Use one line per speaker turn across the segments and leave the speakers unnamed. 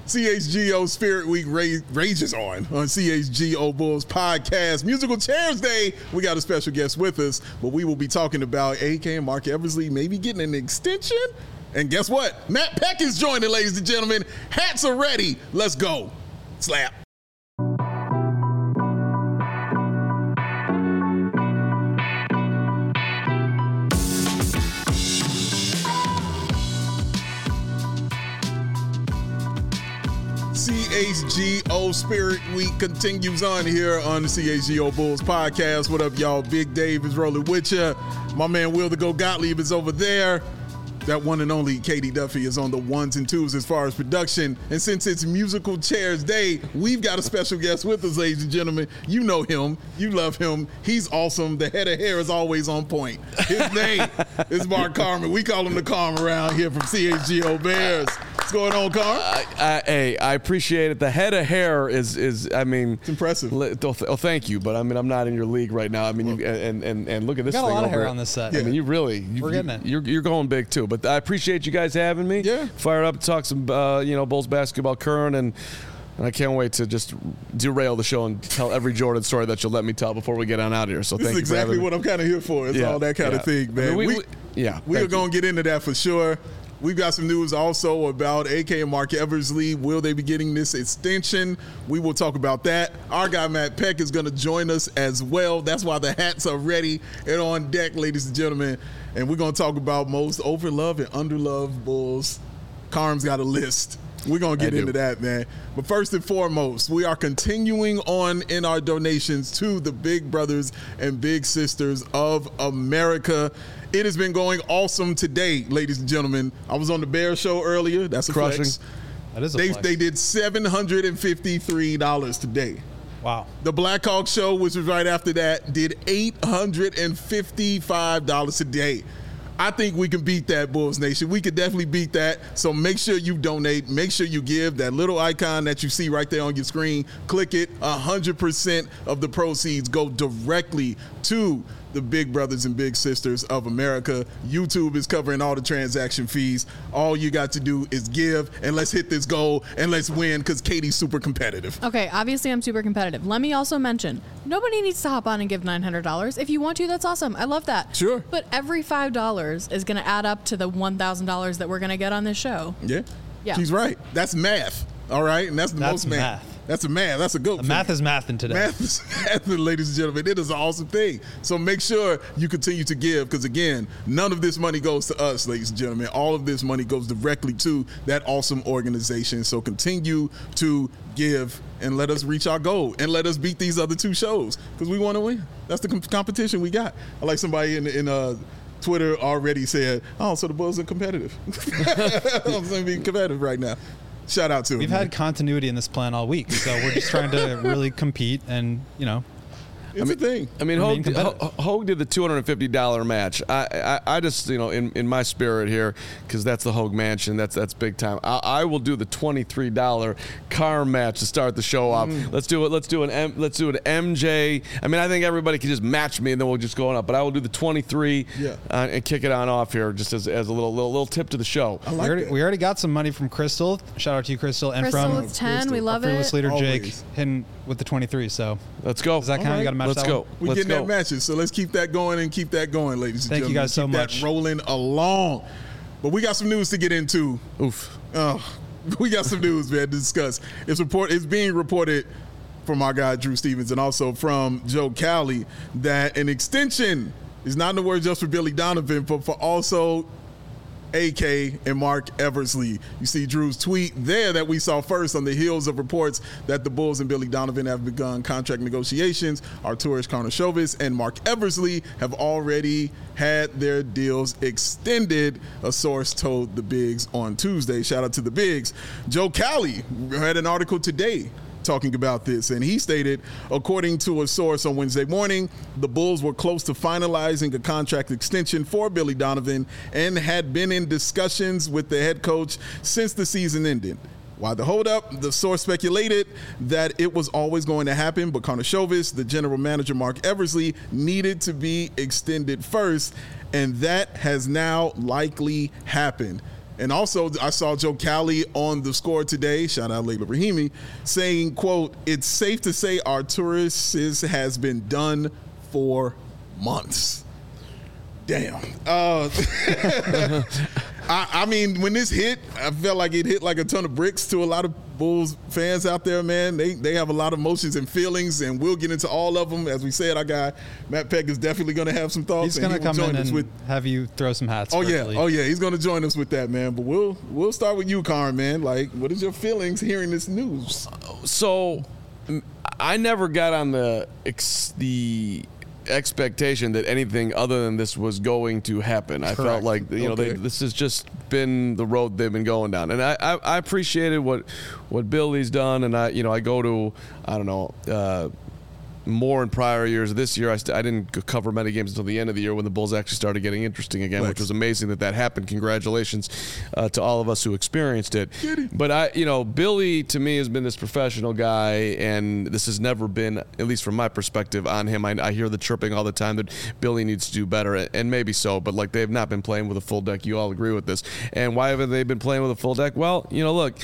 CHGO Spirit Week rages on CHGO Bulls podcast. Musical Chairs Day. We got a special guest with us, but we will be talking about AK and Marc Eversley maybe getting an extension. And guess what? Matt Peck is joining, ladies and gentlemen. Hats are ready. Let's go. Slap. CHGO Spirit Week continues on here on the CHGO Bulls podcast. What up, y'all? Big Dave is rolling with you. My man Will the Go Gottlieb is over there. That one and only Katie Duffy is on the ones and twos as far as production. And since it's Musical Chairs Day, we've got a special guest with us, ladies and gentlemen. You know him. You love him. He's awesome. The head of hair is always on point. His name is Mark Carman. We call him the Carm around here from CHGO Bears. What's going on, Carm?
Hey, I appreciate it. The head of hair is I mean,
it's impressive.
Thank you, but I mean, I'm not in your league right now. I mean, and look at this.
Got
thing
a lot of
over
hair
it.
on this set.
I mean, you really,
we're getting it.
You're going big too. But I appreciate you guys having me.
Yeah.
Fired up to talk some, Bulls basketball current, and I can't wait to just derail the show and tell every Jordan story that you'll let me tell before we get on out of here. So
this
thank
is
you
exactly
for
what I'm kind of here for. It's all that kind of thing, man.
I mean,
we are going to get into that for sure. We've got some news also about AK and Marc Eversley. Will they be getting this extension? We will talk about that. Our guy Matt Peck is going to join us as well. That's why the hats are ready and on deck, ladies and gentlemen. And we're going to talk about most overloved and underloved Bulls. Carm's got a list. We're going to get into that, man. But first and foremost, we are continuing on in our donations to the big brothers and big sisters of America. It has been going awesome today, ladies and gentlemen. I was on the Bear Show earlier. That's a
Crushing.
flex.
That is a flex.
They did $753 today.
Wow.
The Blackhawk Show, which was right after that, did $855 today. I think we can beat that, Bulls Nation. We could definitely beat that. So make sure you donate. Make sure you give. That little icon that you see right there on your screen, click it. 100% of the proceeds go directly to the big brothers and big sisters of America. YouTube is covering all the transaction fees. All you got to do is give, and let's hit this goal, and let's win, because Katie's super competitive.
Okay, obviously I'm super competitive. Let me also mention, nobody needs to hop on and give $900. If you want to, that's awesome. I love that.
Sure.
But every $5 is going to add up to the $1,000 that we're going to get on this show.
Yeah.
Yeah.
She's right. That's math. All right? And that's most math. That's a math. That's a good thing.
Math is math in today.
Math is math, ladies and gentlemen. It is an awesome thing. So make sure you continue to give, because, again, none of this money goes to us, ladies and gentlemen. All of this money goes directly to that awesome organization. So continue to give and let us reach our goal and let us beat these other two shows, because we want to win. That's the competition we got. I like somebody in Twitter already said, oh, so the Bulls are competitive. I'm going to be competitive right now. Shout out to him.
We've had continuity in this plan all week, so we're just trying to really compete and,
It's a thing.
I mean, Hogue did the $250 match. I just, in my spirit here, because that's the Hogue Mansion, that's big time. I will do the $23 Carm match to start the show off. Let's do it. Let's do an MJ. I mean, I think everybody can just match me, and then we'll just go on up. But I will do the 23 and kick it on off here, just as a little tip to the show.
We already got some money from Crystal. Shout out to you, Crystal, and
Crystal
from
with 10, we love
fearless
it.
leader
Always.
Jake hitting with the 23. So
let's go.
Does that count? You got to match
Let's
that
go.
one?
We're getting that matches, so let's keep that going and keep that going, ladies and
Thank
gentlemen.
you guys so much.
Keep that rolling along. But we got some news to get into.
Oof.
We got some news, man, to discuss. It's being reported from our guy Drew Stevens and also from Joe Cowley that an extension is not in the words just for Billy Donovan, but for also AK and Marc Eversley. You see Drew's tweet there that we saw first on the heels of reports that the Bulls and Billy Donovan have begun contract negotiations. Arturas Karnisovas and Marc Eversley have already had their deals extended, a source told the Bigs on Tuesday. Shout out to the Bigs. Joe Cowley had an article today talking about this, and he stated, according to a source on Wednesday morning, the Bulls were close to finalizing a contract extension for Billy Donovan and had been in discussions with the head coach since the season ended. While the holdup, the source speculated that it was always going to happen, but Karnisovas, the general manager Marc Eversley, needed to be extended first, and that has now likely happened. And also, I saw Joe Cowley on The Score today, shout out Layla Rahimi, saying, quote, "It's safe to say Arturas has been done for months." Damn. I mean, when this hit, I felt like it hit like a ton of bricks to a lot of Bulls fans out there, man. They have a lot of emotions and feelings, and we'll get into all of them. As we said, our guy Matt Peck is definitely going to have some thoughts.
He's going to come in and have you throw some hats.
Oh
virtually.
yeah, he's going to join us with that, man. But we'll start with you, Karn, man. Like, what is your feelings hearing this news?
So, I never got on the expectation that anything other than this was going to happen. I felt like this has just been the road they've been going down, and I appreciated what Billy's done, and I go to more in prior years. This year, I didn't cover many games until the end of the year when the Bulls actually started getting interesting again, which was amazing that happened. Congratulations to all of us who experienced it. But Billy to me has been this professional guy, and this has never been, at least from my perspective, on him. I hear the chirping all the time that Billy needs to do better, and maybe so, but like they have not been playing with a full deck. You all agree with this. And why haven't they been playing with a full deck? Well, look,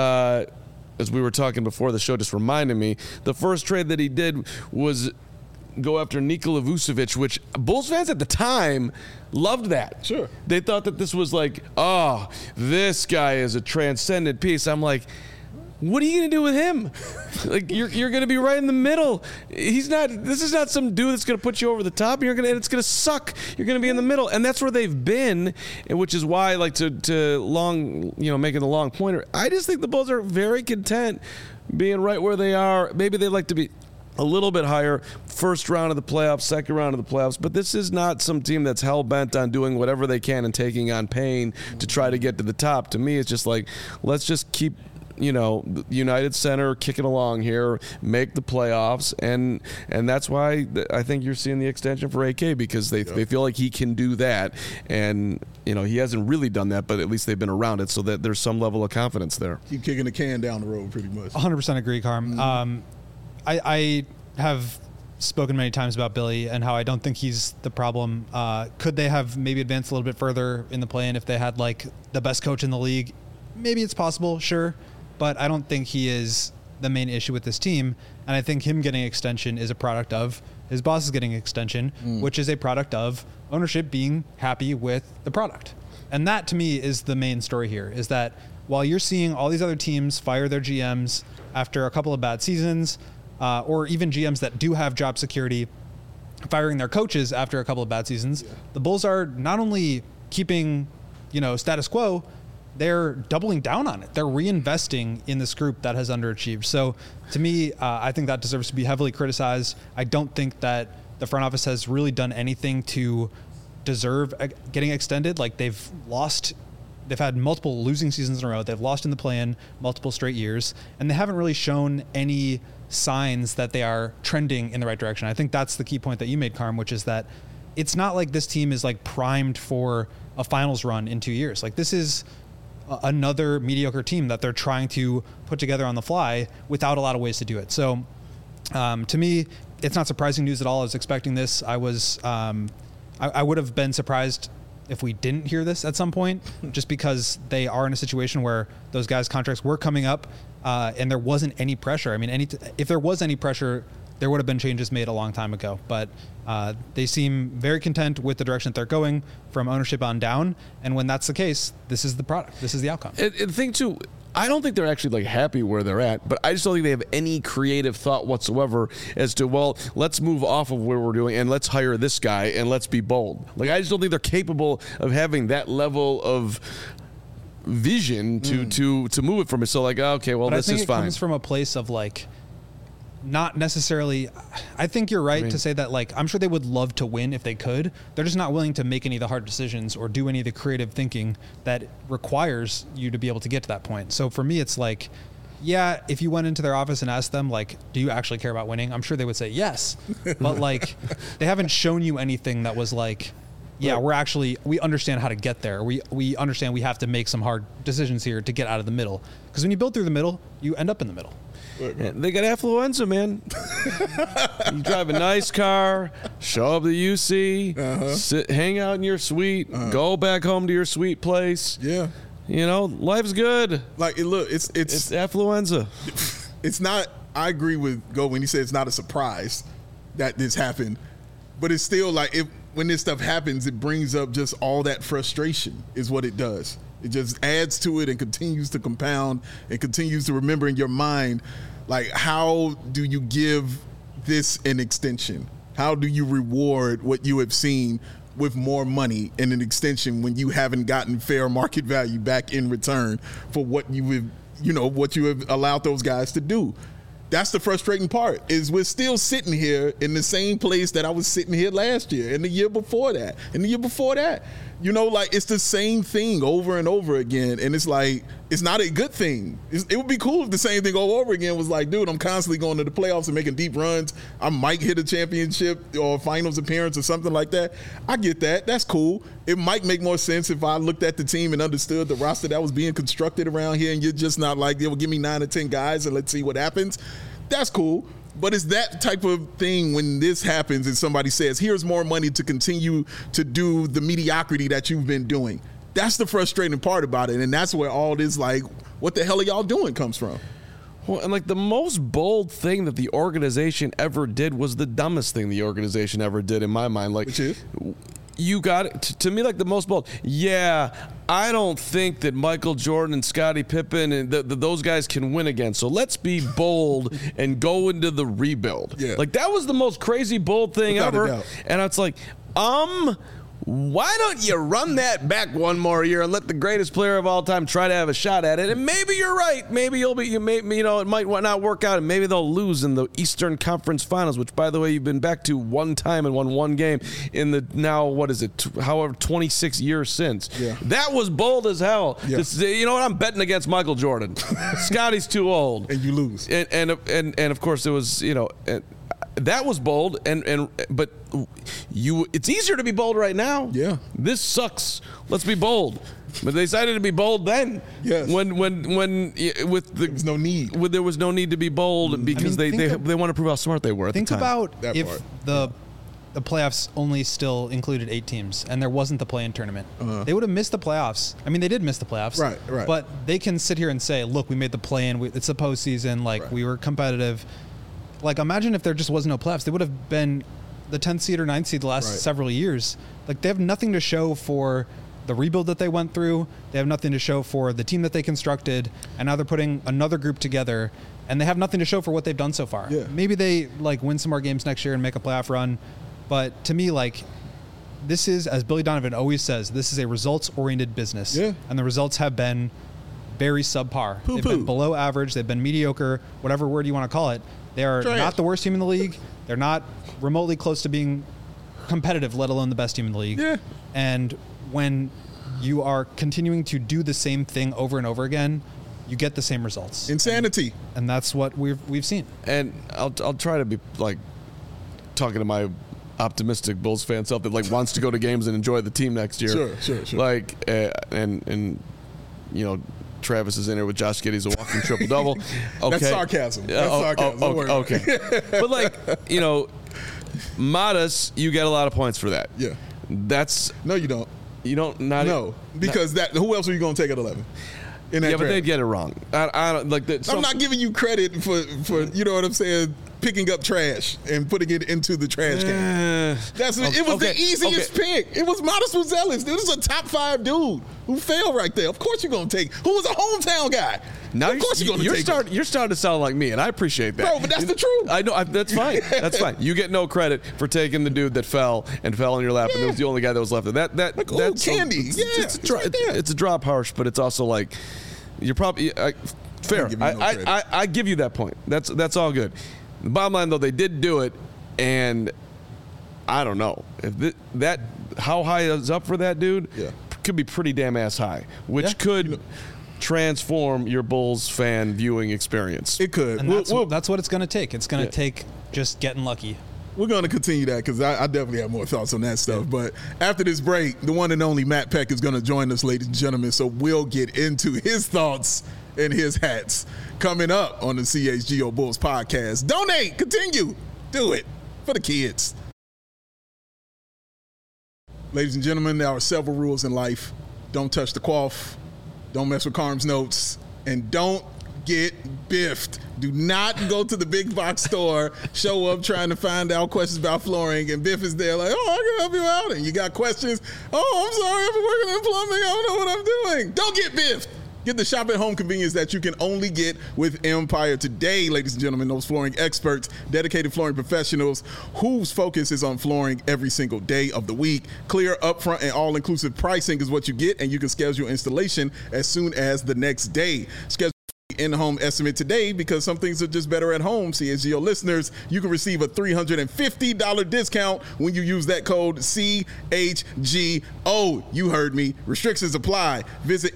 as we were talking before the show, just reminded me, the first trade that he did was go after Nikola Vucevic, which Bulls fans at the time loved that.
Sure. They
thought that this was like, oh, this guy is a transcendent piece. I'm like, what are you going to do with him? Like, you're going to be right in the middle. This is not some dude that's going to put you over the top. And it's going to suck. You're going to be in the middle. And that's where they've been, which is why, like, to long, making the long pointer, I just think the Bulls are very content being right where they are. Maybe they'd like to be a little bit higher, first round of the playoffs, second round of the playoffs, but this is not some team that's hell-bent on doing whatever they can and taking on pain to try to get to the top. To me, it's just like, let's just keep United Center kicking along here, make the playoffs, and that's why I think you're seeing the extension for AK, because they feel like he can do that, and he hasn't really done that, but at least they've been around it, so that there's some level of confidence there.
Keep kicking the can down the road, pretty much.
100% agree, Carm.
Mm-hmm.
I have spoken many times about Billy and how I don't think he's the problem. Could they have maybe advanced a little bit further in the play-in if they had like the best coach in the league? Maybe it's possible, sure. But I don't think he is the main issue with this team. And I think him getting extension is a product of his boss is getting extension, which is a product of ownership being happy with the product. And that to me is the main story here, is that while you're seeing all these other teams fire their GMs after a couple of bad seasons, or even GMs that do have job security firing their coaches after a couple of bad seasons, the Bulls are not only keeping, status quo, they're doubling down on it. They're reinvesting in this group that has underachieved. So to me, I think that deserves to be heavily criticized. I don't think that the front office has really done anything to deserve getting extended. Like they've had multiple losing seasons in a row. They've lost in the play-in multiple straight years, and they haven't really shown any signs that they are trending in the right direction. I think that's the key point that you made, Carm, which is that it's not like this team is like primed for a finals run in 2 years. Like this is another mediocre team that they're trying to put together on the fly without a lot of ways to do it. So to me, it's not surprising news at all. I was expecting this. I would have been surprised if we didn't hear this at some point, just because they are in a situation where those guys' contracts were coming up and there wasn't any pressure. I mean, if there was any pressure, there would have been changes made a long time ago. But they seem very content with the direction that they're going from ownership on down. And when that's the case, this is the product. This is the outcome.
And the thing, too, I don't think they're actually like happy where they're at, but I just don't think they have any creative thought whatsoever as to, well, let's move off of where we're doing and let's hire this guy and let's be bold. Like, I just don't think they're capable of having that level of vision to move it from it. So like, okay, well, this is fine.
It comes from a place of like, not necessarily. I think you're right to say that, like, I'm sure they would love to win if they could. They're just not willing to make any of the hard decisions or do any of the creative thinking that requires you to be able to get to that point. So for me, it's like, yeah, if you went into their office and asked them, like, do you actually care about winning? I'm sure they would say yes. But like, they haven't shown you anything that was like, yeah, we understand how to get there. We understand we have to make some hard decisions here to get out of the middle. Because when you build through the middle, you end up in the middle.
Yeah, they got affluenza, man. You drive a nice car, show up to UC, hang out in your suite, go back home to your sweet place.
Yeah.
life's good.
Like, look, it's
affluenza.
It's not. I agree with Go when he said it's not a surprise that this happened, but it's still like when this stuff happens, it brings up just all that frustration is what it does. It just adds to it and continues to compound and continues to remember in your mind, like, how do you give this an extension? How do you reward what you have seen with more money and an extension when you haven't gotten fair market value back in return for what you have allowed those guys to do? That's the frustrating part, is we're still sitting here in the same place that I was sitting here last year and the year before that and the year before that. Like, it's the same thing over and over again. And it's like, it's not a good thing. It would be cool if the same thing over again was like, dude, I'm constantly going to the playoffs and making deep runs. I might hit a championship or finals appearance or something like that. I get that. That's cool. It might make more sense if I looked at the team and understood the roster that was being constructed around here, and you're just not like, give me 9 or 10 guys and let's see what happens. That's cool. But it's that type of thing when this happens and somebody says, here's more money to continue to do the mediocrity that you've been doing. That's the frustrating part about it. And that's where all this, like, what the hell are y'all doing comes from.
Well, and like the most bold thing that the organization ever did was the dumbest thing the organization ever did in my mind. Like,
which is?
You got it. To me, like the most bold. Yeah, I don't think that Michael Jordan and Scottie Pippen and those guys can win again. So let's be bold and go into the rebuild.
Yeah.
Like, that was the most crazy bold thing
Without a
ever.
doubt.
And it's like, why don't you run that back one more year and let the greatest player of all time try to have a shot at it? And maybe you're right. Maybe it might not work out, and maybe they'll lose in the Eastern Conference Finals, which, by the way, you've been back to one time and won one game in the now, 26 years since.
Yeah.
That was bold as hell.
Yeah.
You know what? I'm betting against Michael Jordan. Scotty's too old.
And you lose.
And of course it was, that was bold, but it's easier to be bold right now.
Yeah.
This sucks. Let's be bold. But they decided to be bold then.
Yes.
When there was
no need.
There was no need to be bold because they want to prove how smart they were at the time.
Think about
That
if
part.
the playoffs only still included 8 teams and there wasn't the play-in tournament. They would have missed the playoffs. I mean, they did miss the playoffs.
Right.
But they can sit here and say, look, we made the play-in. It's the postseason. Like, we were competitive. Like, imagine if there just was no playoffs. They would have been the 10th seed or 9th seed the last several years. Like, they have nothing to show for the rebuild that they went through. They have nothing to show for the team that they constructed. And now they're putting another group together. And they have nothing to show for what they've done so far.
Yeah.
Maybe they, win some more games next year and make a playoff run. But to me, this is, as Billy Donovan always says, this is a results-oriented business.
Yeah.
And the results have been very subpar. They've been below average. They've been mediocre, whatever word you want to call it. They are not the worst team in the league. They're not remotely close to being competitive, let alone the best team in the league.
Yeah.
And when you are continuing to do the same thing over and over again, you get the same results.
Insanity.
And that's what we've seen.
And I'll try to be talking to my optimistic Bulls fan self that wants to go to games and enjoy the team next year.
Sure.
And Travis is in here with Josh Giddey's a walking triple-double. Okay.
That's sarcasm. Don't worry about
it. But, Modest, you get a lot of points for that.
Yeah.
No,
you don't.
You don't?
Because who else are you going to take at 11? In that
but
draft?
they'd get it wrong. I don't like that.
I'm not giving you credit for you know what I'm saying, picking up trash and putting it into the trash can. It was the easiest pick. It was Modest Zealous. This is a top 5 dude who failed right there. Of course you're gonna take. Who was a hometown guy?
Now
of course you're gonna take.
You're starting to sound like me, and I appreciate that,
bro. But that's the truth.
I know. That's fine. That's fine. You get no credit for taking the dude that fell in your lap, and it was the only guy that was left. That's
candy.
It's a drop harsh, but it's also like you're probably fair. I give you that point. That's all good. The bottom line, though, they did do it, and I don't know if that how high is up for that dude.
Yeah.
Could be pretty damn ass high, which could transform your Bulls fan viewing experience.
It could.
And that's what it's going to take. It's going to take just getting lucky.
We're going to continue that because I definitely have more thoughts on that stuff. But after this break, the one and only Matt Peck is going to join us, ladies and gentlemen. So we'll get into his thoughts and his hats coming up on the CHGO Bulls podcast. Donate. Continue. Do it for the kids. Ladies and gentlemen, there are several rules in life. Don't touch the quaff. don't mess with Carm's notes, and don't get biffed. Do not go to the big box store, show up trying to find out questions about flooring, and Biff is there like, oh, I can help you out. And you got questions. Oh, I'm sorry, I've been working in plumbing. I don't know what I'm doing. Don't get biffed. Get the shop at home convenience that you can only get with Empire Today, ladies and gentlemen. Those flooring experts, dedicated flooring professionals whose focus is on flooring every single day of the week. Clear, upfront, and all-inclusive pricing is what you get, and you can schedule your installation as soon as the next day. Schedule in-home estimate today because some things are just better at home. CHGO listeners, you can receive a $350 discount when you use that code CHGO. You heard me. Restrictions apply. Visit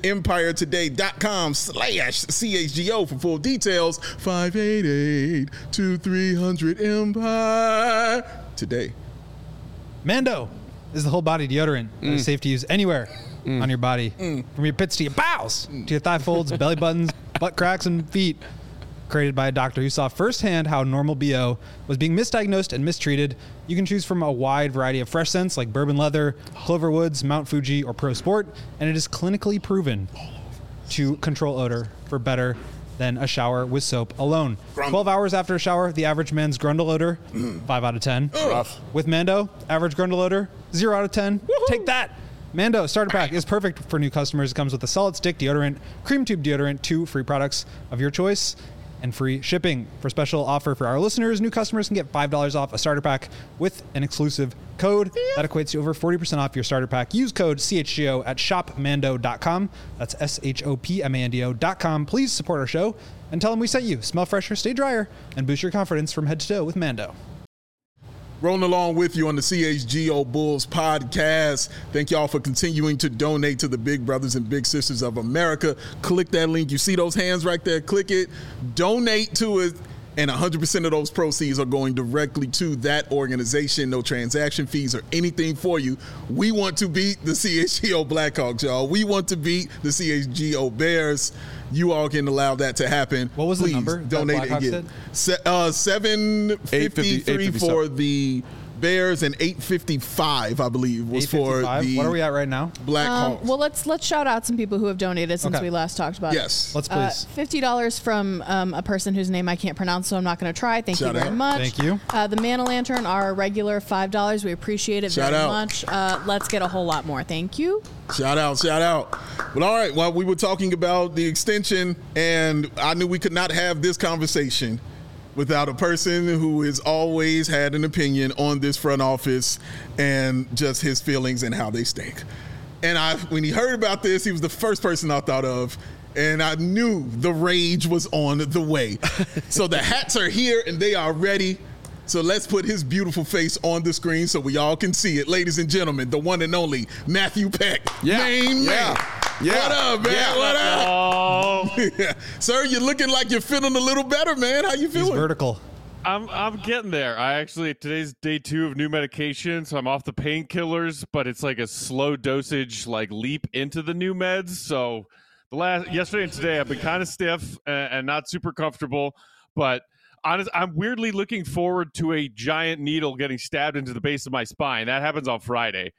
EmpireToday.com/CHGO for full details. 588-2300 Empire
Mando is the whole body deodorant that is safe to use anywhere on your body, from your pits to your bowels, to your thigh folds, belly buttons, butt cracks, and feet. Created by a doctor who saw firsthand how normal BO was being misdiagnosed and mistreated. You can choose from a wide variety of fresh scents like bourbon leather, Clover Woods, Mount Fuji, or Pro Sport, and it is clinically proven to control odor for better than a shower with soap alone. 12 hours after a shower, the average man's grundle odor, 5 out of 10.
Rough.
With Mando, average grundle odor, 0 out of 10. Woo-hoo. Take that. Mando starter pack is perfect for new customers. It comes with a solid stick deodorant, cream tube deodorant, 2 free products of your choice, and free shipping. For a special offer for our listeners, new customers can get $5 off a starter pack with an exclusive code. That equates to over 40% off your starter pack. Use code CHGO at shopmando.com. That's SHOPMANDO.com. Please support our show and tell them we sent you. Smell fresher, stay drier, and boost your confidence from head to toe with Mando.
Rolling along with you on the CHGO Bulls podcast. Thank y'all for continuing to donate to the big brothers and big sisters of America. Click that link. You see those hands right there? Click it. Donate to it. And 100% of those proceeds are going directly to that organization. No transaction fees or anything for you. We want to beat the CHGO Blackhawks, y'all. We want to beat the CHGO Bears. You all can allow that to happen.
What was the number?
Donate it again. 753 for the Bears and 855, I believe, was for the.
What are we at right now?
Blackhawks.
Well, let's shout out some people who have donated since we last talked about it.
Yes.
Let's please.
$50 from a person whose name I can't pronounce, so I'm not going to try. Thank you very much.
Thank you.
The Man Lantern, our regular $5. We appreciate it very much. Let's get a whole lot more. Thank you.
Shout out. Well, all right. Well, we were talking about the extension, and I knew we could not have this conversation without a person who has always had an opinion on this front office and just his feelings and how they stink. And when he heard about this, he was the first person I thought of, and I knew the rage was on the way. So the hats are here and they are ready. So let's put his beautiful face on the screen so we all can see it. Ladies and gentlemen, the one and only Matthew Peck. Main man. What up, man? What up?
Oh.
Sir, you're looking like you're feeling a little better, man. How you feeling?
He's vertical.
I'm getting there. Today's day 2 of new medication, so I'm off the painkillers, but it's like a slow dosage, like leap into the new meds. So yesterday and today I've been kind of stiff and not super comfortable, but I'm weirdly looking forward to a giant needle getting stabbed into the base of my spine. That happens on Friday.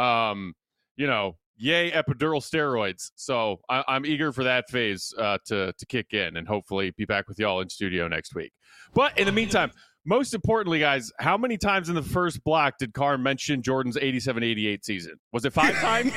Yay, epidural steroids. So I'm eager for that phase to kick in and hopefully be back with y'all in studio next week. But in the meantime, most importantly, guys, how many times in the first block did Carr mention Jordan's 87-88 season? Was it 5 times?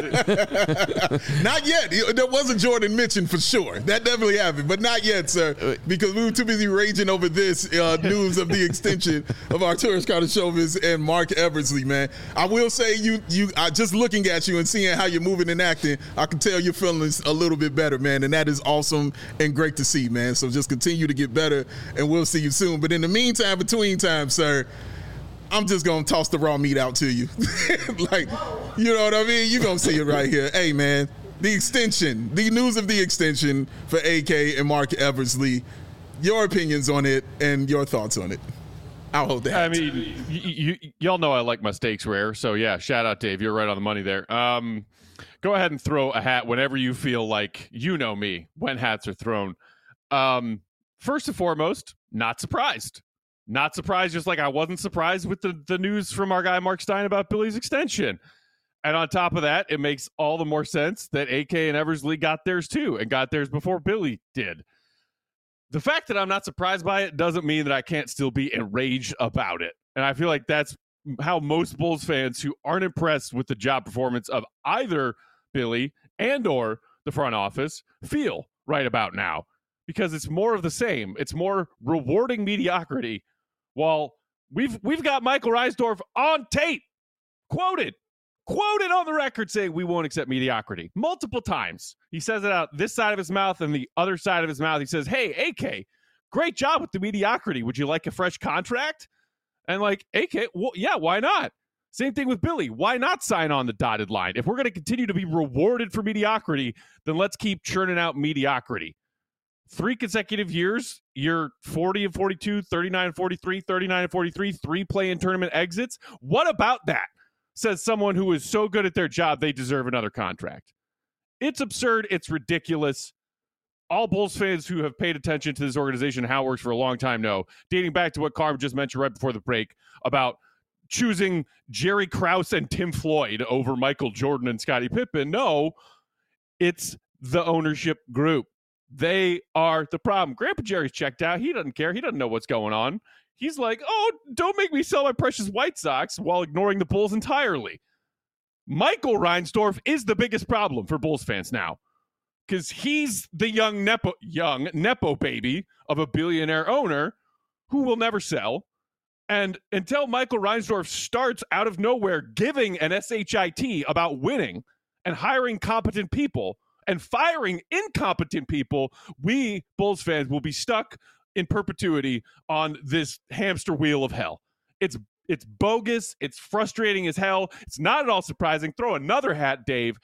Not yet. There was a Jordan mention for sure. That definitely happened, but not yet, sir, because we were too busy raging over this news of the extension of Arturas Karnisovas and Mark Eversley, man. I will say you just looking at you and seeing how you're moving and acting, I can tell you're feeling a little bit better, man, and that is awesome and great to see, man. So just continue to get better, and we'll see you soon. But in the meantime, between time, sir, I'm just gonna toss the raw meat out to you. Like, you know what I mean? You're gonna see it right here. Hey, man, the extension, the news of the extension for AK and Mark Eversley, your opinions on it and your thoughts on it. I'll hold that.
I mean, y'all know I like my steaks rare, so yeah, shout out, Dave. You're right on the money there. Go ahead and throw a hat whenever you feel like, you know me, when hats are thrown. First and foremost, not surprised. Not surprised, just like I wasn't surprised with the news from our guy Mark Stein about Billy's extension. And on top of that, it makes all the more sense that AK and Eversley got theirs too, and got theirs before Billy did. The fact that I'm not surprised by it doesn't mean that I can't still be enraged about it. And I feel like that's how most Bulls fans who aren't impressed with the job performance of either Billy and or the front office feel right about now, because it's more of the same. It's more rewarding mediocrity, while we've got Michael Reinsdorf on tape, quoted on the record saying we won't accept mediocrity multiple times. He says it out this side of his mouth, and the other side of his mouth he says, hey, AK, great job with the mediocrity. Would you like a fresh contract? And like, AK, well, yeah, why not? Same thing with Billy. Why not sign on the dotted line? If we're going to continue to be rewarded for mediocrity, then let's keep churning out mediocrity. 3 consecutive years, you're 40 and 42, 39 and 43, 39 and 43, 3 play-in tournament exits. What about that? Says someone who is so good at their job, they deserve another contract. It's absurd. It's ridiculous. All Bulls fans who have paid attention to this organization and how it works for a long time know, dating back to what Carm just mentioned right before the break about choosing Jerry Krause and Tim Floyd over Michael Jordan and Scottie Pippen. No, it's the ownership group. They are the problem. Grandpa Jerry's checked out. He doesn't care. He doesn't know what's going on. He's like, oh, don't make me sell my precious White Sox, while ignoring the Bulls entirely. Michael Reinsdorf is the biggest problem for Bulls fans now, because he's the young Nepo baby of a billionaire owner who will never sell. And until Michael Reinsdorf starts out of nowhere giving an SHIT about winning and hiring competent people and firing incompetent people, we Bulls fans will be stuck in perpetuity on this hamster wheel of hell. It's bogus. It's frustrating as hell. It's not at all surprising. Throw another hat, Dave.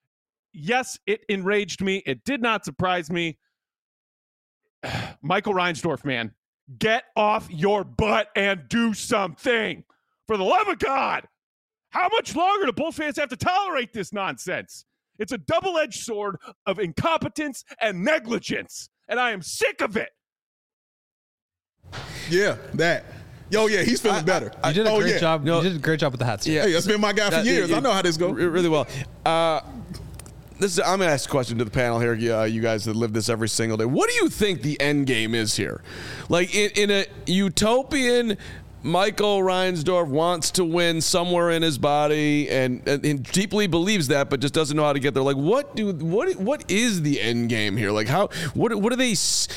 Yes, it enraged me. It did not surprise me. Michael Reinsdorf, man, get off your butt and do something. For the love of God, how much longer do Bulls fans have to tolerate this nonsense? It's a double-edged sword of incompetence and negligence, and I am sick of it.
Yeah, that. Yo, yeah, he's feeling better.
You did a great job. You did a great job with the hats.
Yeah,
hey, that's been my guy for years. I know how this goes.
Really well. I'm going to ask a question to the panel here. You guys that live this every single day. What do you think the end game is here? Like in a utopian, Michael Reinsdorf wants to win somewhere in his body and deeply believes that, but just doesn't know how to get there. Like, what is the end game here? Like, how do they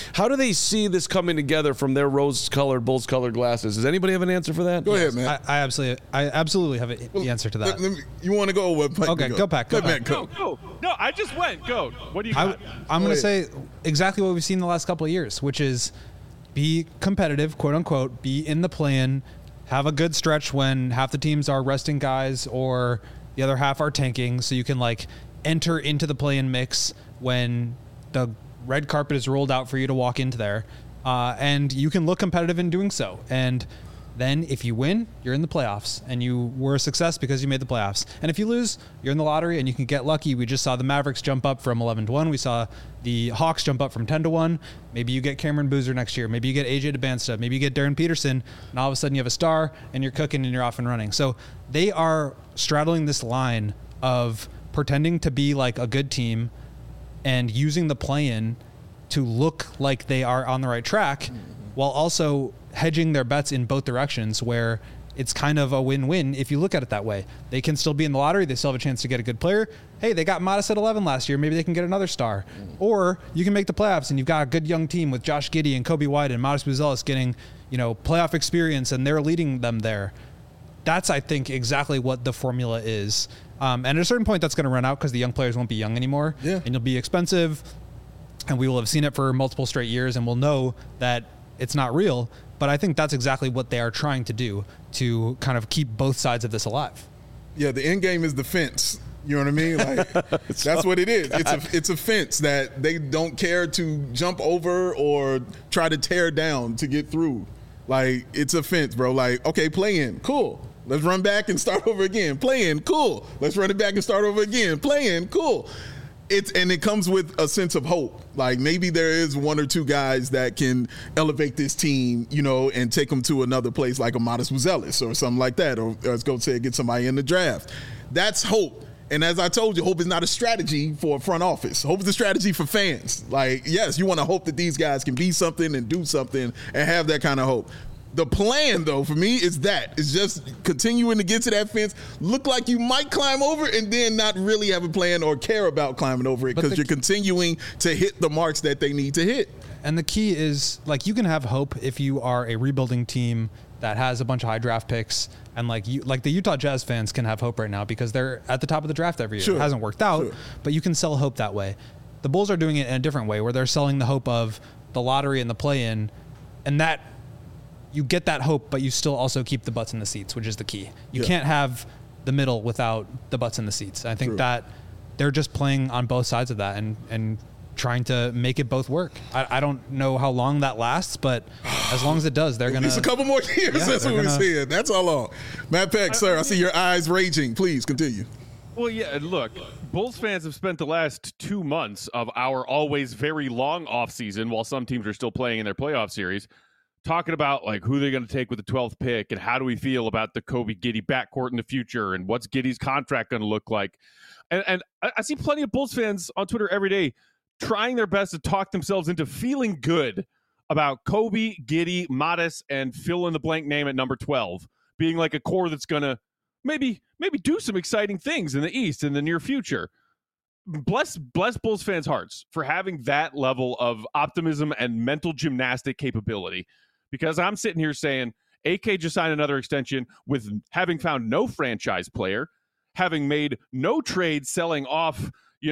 see this coming together from their rose-colored, Bulls-colored glasses? Does anybody have an answer for that?
Go ahead, man.
I absolutely have the answer to that.
You want to go with?
Okay, go Pack. Go.
No, I just went. Go. What do you got?
I'm going to say exactly what we've seen the last couple of years, which is be competitive, quote unquote, be in the play-in, have a good stretch when half the teams are resting guys or the other half are tanking, so you can like enter into the play-in mix when the red carpet is rolled out for you to walk into there, and you can look competitive in doing so. And then if you win, you're in the playoffs, and you were a success because you made the playoffs. And if you lose, you're in the lottery, and you can get lucky. We just saw the Mavericks jump up from 11-1. We saw the Hawks jump up from 10-1. Maybe you get Cameron Boozer next year. Maybe you get AJ DeBansta. Maybe you get Darren Peterson, and all of a sudden you have a star, and you're cooking, and you're off and running. So they are straddling this line of pretending to be like a good team and using the play-in to look like they are on the right track, while also hedging their bets in both directions, where it's kind of a win-win if you look at it that way. They can still be in the lottery. They still have a chance to get a good player. Hey, they got Modest at 11 last year. Maybe they can get another star. Or you can make the playoffs, and you've got a good young team with Josh Giddey and Kobe White and Modest Buzelis getting, playoff experience, and they're leading them there. That's, I think, exactly what the formula is. And at a certain point, that's going to run out because the young players won't be young anymore.
Yeah.
And you'll be expensive, and we will have seen it for multiple straight years, and we'll know that it's not real. But I think that's exactly what they are trying to do to kind of keep both sides of this alive.
Yeah, the end game is the fence. You know what I mean? Like that's what it is. It's a fence that they don't care to jump over or try to tear down to get through. Like, it's a fence, bro. Like, okay, play in, cool. Let's run back and start over again. Play in, cool. Let's run it back and start over again. Play in, cool. it comes with a sense of hope. Like maybe there is one or two guys that can elevate this team, and take them to another place, like a Modest Buzelis or something like that, or let's go say get somebody in the draft. That's hope. And as I told you, hope is not a strategy for a front office. Hope is a strategy for fans. Like, yes, you want to hope that these guys can be something and do something and have that kind of hope. The plan, though, for me is just continuing to get to that fence, look like you might climb over, and then not really have a plan or care about climbing over it because you're continuing to hit the marks that they need to hit.
And the key is, like, you can have hope if you are a rebuilding team that has a bunch of high draft picks, and like the Utah Jazz fans can have hope right now because they're at the top of the draft every year.
Sure.
It hasn't worked out,
Sure.
but you can sell hope that way. The Bulls are doing it in a different way, where they're selling the hope of the lottery and the play-in, and that you get that hope, but you still also keep the butts in the seats, which is the key. You can't have the middle without the butts in the seats. I think that they're just playing on both sides of that and trying to make it both work. I don't know how long that lasts, but as long as it does, they're going to...
It's a couple more years, that's what we're saying. That's all long. Matt Peck, sir, I see your eyes raging. Please continue.
Well, yeah, look, Bulls fans have spent the last 2 months of our always very long offseason, while some teams are still playing in their playoff series, talking about like who they're going to take with the 12th pick and how do we feel about the Kobe Giddey backcourt in the future and what's Giddey's contract going to look like. And I see plenty of Bulls fans on Twitter every day trying their best to talk themselves into feeling good about Kobe, Giddey, Modest, and fill in the blank name at number 12 being like a core that's going to maybe do some exciting things in the East in the near future. Bless Bulls fans' hearts for having that level of optimism and mental gymnastic capability. Because I'm sitting here saying AK just signed another extension with having found no franchise player, having made no trade selling off,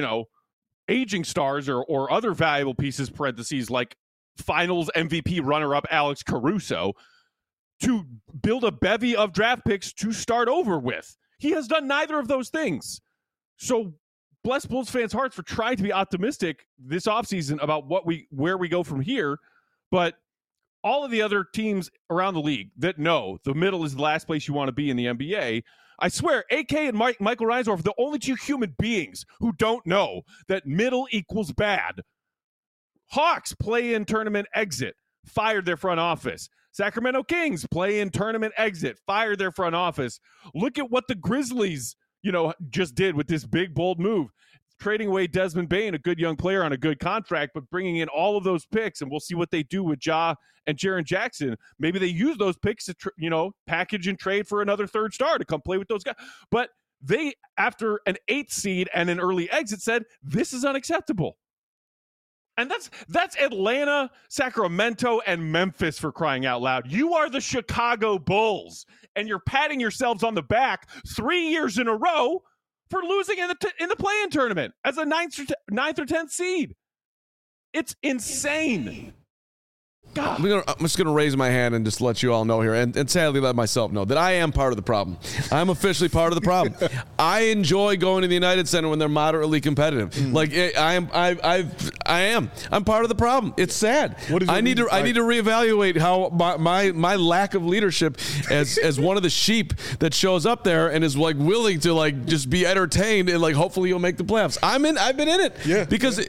aging stars or other valuable pieces, parentheses, like finals MVP runner-up Alex Caruso, to build a bevy of draft picks to start over with. He has done neither of those things. So bless Bulls fans' hearts for trying to be optimistic this offseason about where we go from here. But all of the other teams around the league that know the middle is the last place you want to be in the NBA, I swear, AK and Michael Reinsdorf are the only two human beings who don't know that middle equals bad. Hawks play-in tournament exit, fired their front office. Sacramento Kings play-in tournament exit, fired their front office. Look at what the Grizzlies, just did with this big, bold move. Trading away Desmond Bane, a good young player on a good contract, but bringing in all of those picks, and we'll see what they do with Ja and Jaren Jackson. Maybe they use those picks to, package and trade for another third star to come play with those guys. But they, after an 8th seed and an early exit, said, this is unacceptable. And that's Atlanta, Sacramento, and Memphis, for crying out loud. You are the Chicago Bulls, and you're patting yourselves on the back 3 years in a row for losing in the play-in tournament as a 9th or 10th seed. It's insane. God.
I'm just going to raise my hand and just let you all know here, and sadly let myself know that I am part of the problem. I'm officially part of the problem. I enjoy going to the United Center when they're moderately competitive. Like I am. I'm part of the problem. It's sad. I need to reevaluate how my lack of leadership as one of the sheep that shows up there and is like willing to like just be entertained and like hopefully you'll make the playoffs. I've been in it.
Yeah.
Because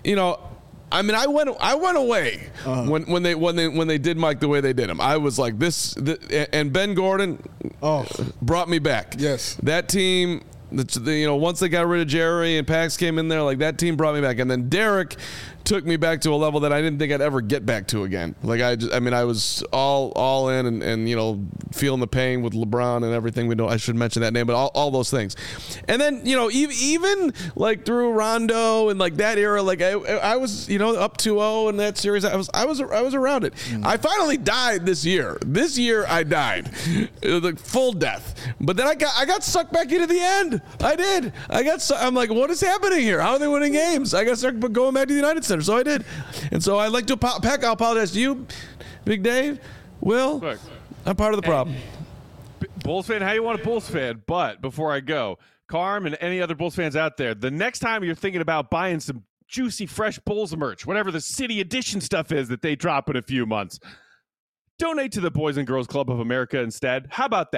I went away when they did Mike the way they did him. I was like and Ben Gordon brought me back.
Yes,
that team. Once they got rid of Jerry and Pax came in there, like that team brought me back, and then Derek took me back to a level that I didn't think I'd ever get back to again. Like I was all in and feeling the pain with LeBron and everything. I should mention that name, but all those things. And then even like through Rondo and like that era, like I was up 2-0 in that series. I was around it. I finally died this year. This year I died, like full death. But then I got sucked back into the end. I did. I'm like, what is happening here? How are they winning games? I got stuck going back to the United Center. So I did. And so I'd like to Peck, I'll apologize to you, Big Dave. Will, look, I'm part of the problem.
Bulls fan, how you want a Bulls fan? But before I go, Carm and any other Bulls fans out there, the next time you're thinking about buying some juicy, fresh Bulls merch, whatever the City Edition stuff is that they drop in a few months, donate to the Boys and Girls Club of America instead. How about that?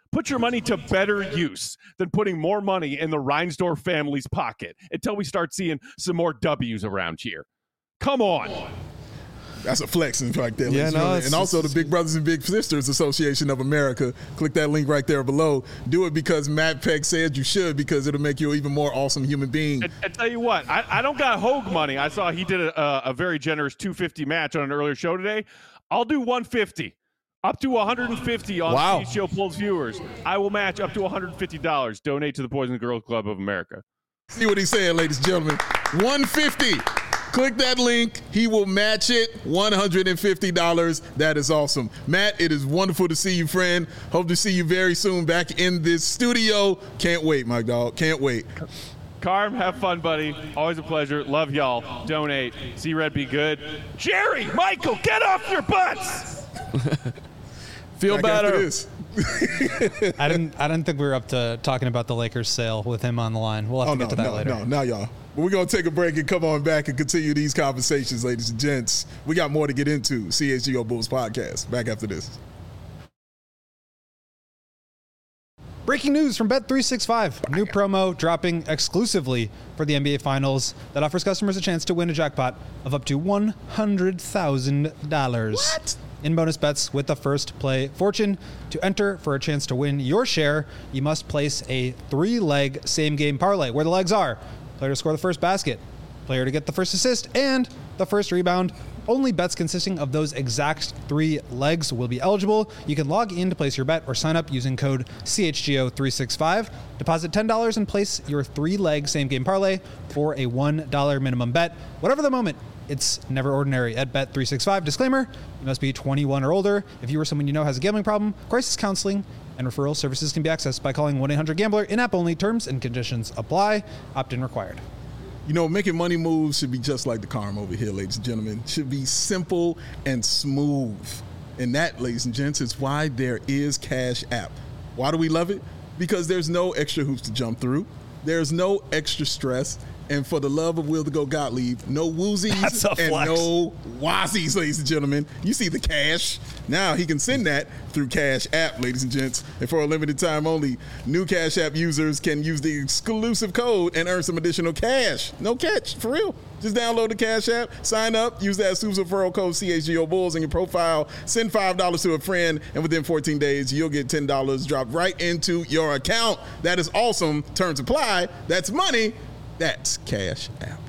Put your money to better use than putting more money in the Reinsdorf family's pocket until we start seeing some more W's around here. Come on.
That's a flex in fact there,
Yeah,
ladies and
no,
gentlemen. And also the Big Brothers and Big Sisters Association of America. Click that link right there below. Do it because Matt Peck said you should, because it'll make you an even more awesome human being.
I tell you what, I don't got Hogue money. I saw he did a very generous $250 match on an earlier show today. I'll do $150. Up to $150 on
Wow.
Show Pulls viewers. I will match up to $150. Donate to the Boys and Girls Club of America.
See what he's saying, ladies and gentlemen. $150. Click that link. He will match it. $150. That is awesome. Matt, it is wonderful to see you, friend. Hope to see you very soon back in this studio. Can't wait, my dog. Can't wait.
Carm, have fun, buddy. Always a pleasure. Love y'all. Donate. See Red be good. Jerry, Michael, get off your butts.
Feel
Back after
better.
this.
I didn't think we were up to talking about the Lakers sale with him on the line. We'll have to get to that later.
No, now y'all. But we're going to take a break and come on back and continue these conversations, ladies and gents. We got more to get into. CHGO Bulls Podcast. Back after this.
Breaking news from Bet365. New promo dropping exclusively for the NBA Finals that offers customers a chance to win a jackpot of up to $100,000.
What?
In bonus bets with the first play fortune. To enter for a chance to win your share, you must place a 3-leg same-game parlay, where the legs are player to score the first basket, player to get the first assist, and the first rebound. Only bets consisting of those exact 3 legs will be eligible. You can log in to place your bet or sign up using code CHGO365. Deposit $10 and place your 3-leg same-game parlay for a $1 minimum bet. Whatever the moment, it's never ordinary at Bet365. Disclaimer, you must be 21 or older. If you or someone you know has a gambling problem, crisis counseling and referral services can be accessed by calling 1-800-GAMBLER. In-app only. Terms and conditions apply. Opt-in required.
You know, making money moves should be just like the Carm over here, ladies and gentlemen. Should be simple and smooth. And that, ladies and gents, is why there is Cash App. Why do we love it? Because there's no extra hoops to jump through. There's no extra stress. And for the love of Will to Go Gottlieb, no woozies
That's a
and
flex.
no wazies, ladies and gentlemen. You see the cash. Now he can send that through Cash App, ladies and gents. And for a limited time only, new Cash App users can use the exclusive code and earn some additional cash. No catch, for real. Just download the Cash App, sign up, use that exclusive referral code CHGO Bulls in your profile, send $5 to a friend, and within 14 days, you'll get $10 dropped right into your account. That is awesome. Terms apply. That's money. That's Cash App.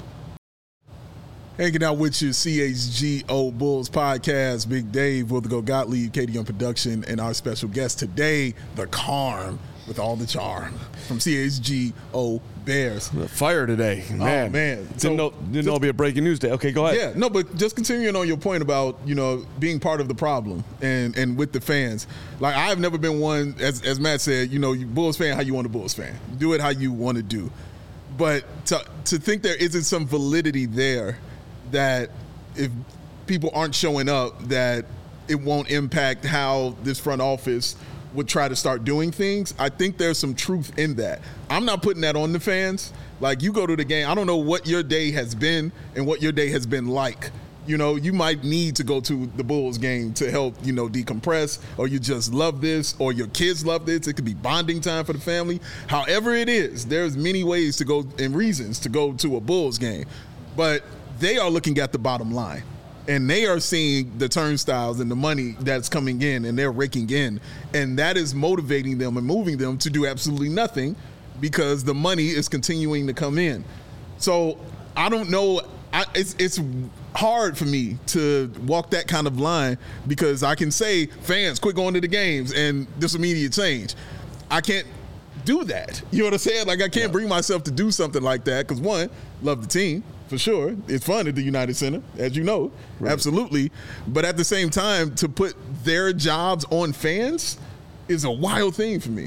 Hanging out with you, CHGO Bulls Podcast. Big Dave, Will to Go Gottlieb, Katie on production, and our special guest today, the Carm with all the charm from CHGO Bears.
Fire today, man.
Oh, man.
Didn't know it'd be a breaking news day. Okay, go ahead.
Yeah, no, but just continuing on your point about, you know, being part of the problem and with the fans. Like, I've never been one, as Matt said, you know, you Bulls fan how you want a Bulls fan. Do it how you want to do. But to think there isn't some validity there that if people aren't showing up, that it won't impact how this front office would try to start doing things, I think there's some truth in that. I'm not putting that on the fans. Like, you go to the game, I don't know what your day has been and what your day has been like. You know, you might need to go to the Bulls game to help, you know, decompress, or you just love this, or your kids love this. It could be bonding time for the family. However it is, there's many ways to go and reasons to go to a Bulls game. But they are looking at the bottom line, and they are seeing the turnstiles and the money that's coming in, and they're raking in. And that is motivating them and moving them to do absolutely nothing because the money is continuing to come in. So I don't know. It's hard for me to walk that kind of line because I can say, fans, quit going to the games and this immediate change. I can't do that. You know what I'm saying? Like, I can't bring myself to do something like that because, one, love the team, for sure. It's fun at the United Center, as you know. Right. Absolutely. But at the same time, to put their jobs on fans is a wild thing for me.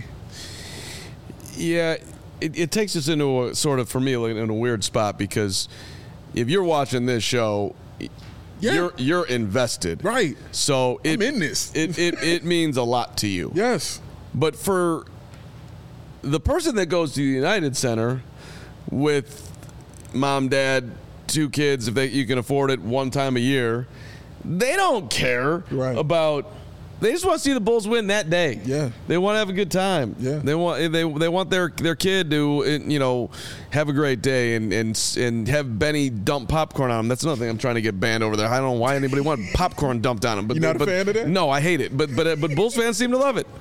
Yeah, it takes us into a sort of, for me, like, in a weird spot because if you're watching this show, you're invested.
Right.
So
I'm in this.
It means a lot to you.
Yes.
But for the person that goes to the United Center with mom, dad, 2 kids, if you can afford it one time a year, they don't care about They just want to see the Bulls win that day.
Yeah.
They want to have a good time.
Yeah.
They want their kid to have a great day and have Benny dump popcorn on him. That's another thing I'm trying to get banned over there. I don't know why anybody want popcorn dumped on him. But
you not a fan of that?
No, I hate it. But Bulls fans seem to love it.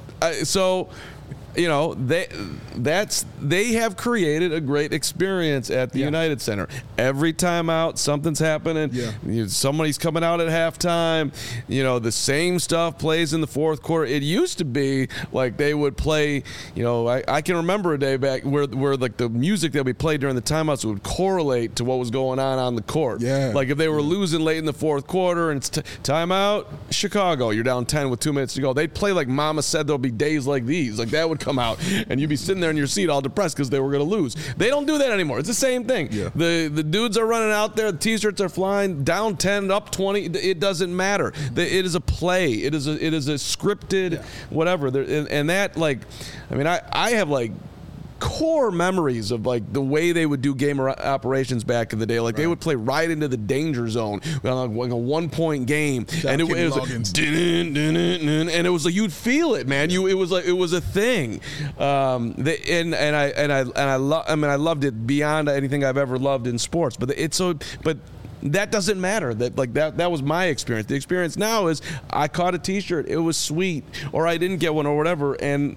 They have created a great experience at the United Center. Every time out, something's happening.
Yeah.
Somebody's coming out at halftime. The same stuff plays in the fourth quarter. It used to be like they would play. I can remember a day back where like the music that we played during the timeouts would correlate to what was going on the court.
Yeah.
Like if they were losing late in the fourth quarter and it's timeout, Chicago, you're down 10 with 2 minutes to go. They'd play like Mama Said There'll Be Days Like These. Like that would come out, and you'd be sitting there in your seat all depressed because they were going to lose. They don't do that anymore. It's the same thing.
Yeah.
The dudes are running out there. The T-shirts are flying. Down 10, up 20. It doesn't matter. It is a play. It is a scripted whatever. And that I have like core memories of like the way they would do game operations back in the day. Like they would play right into the danger zone on like a 1-point game, and it was like, and it was like you'd feel it, man. It was a thing. I loved it beyond anything I've ever loved in sports. But that doesn't matter. That was my experience. The experience now is I caught a T-shirt. It was sweet, or I didn't get one, or whatever. And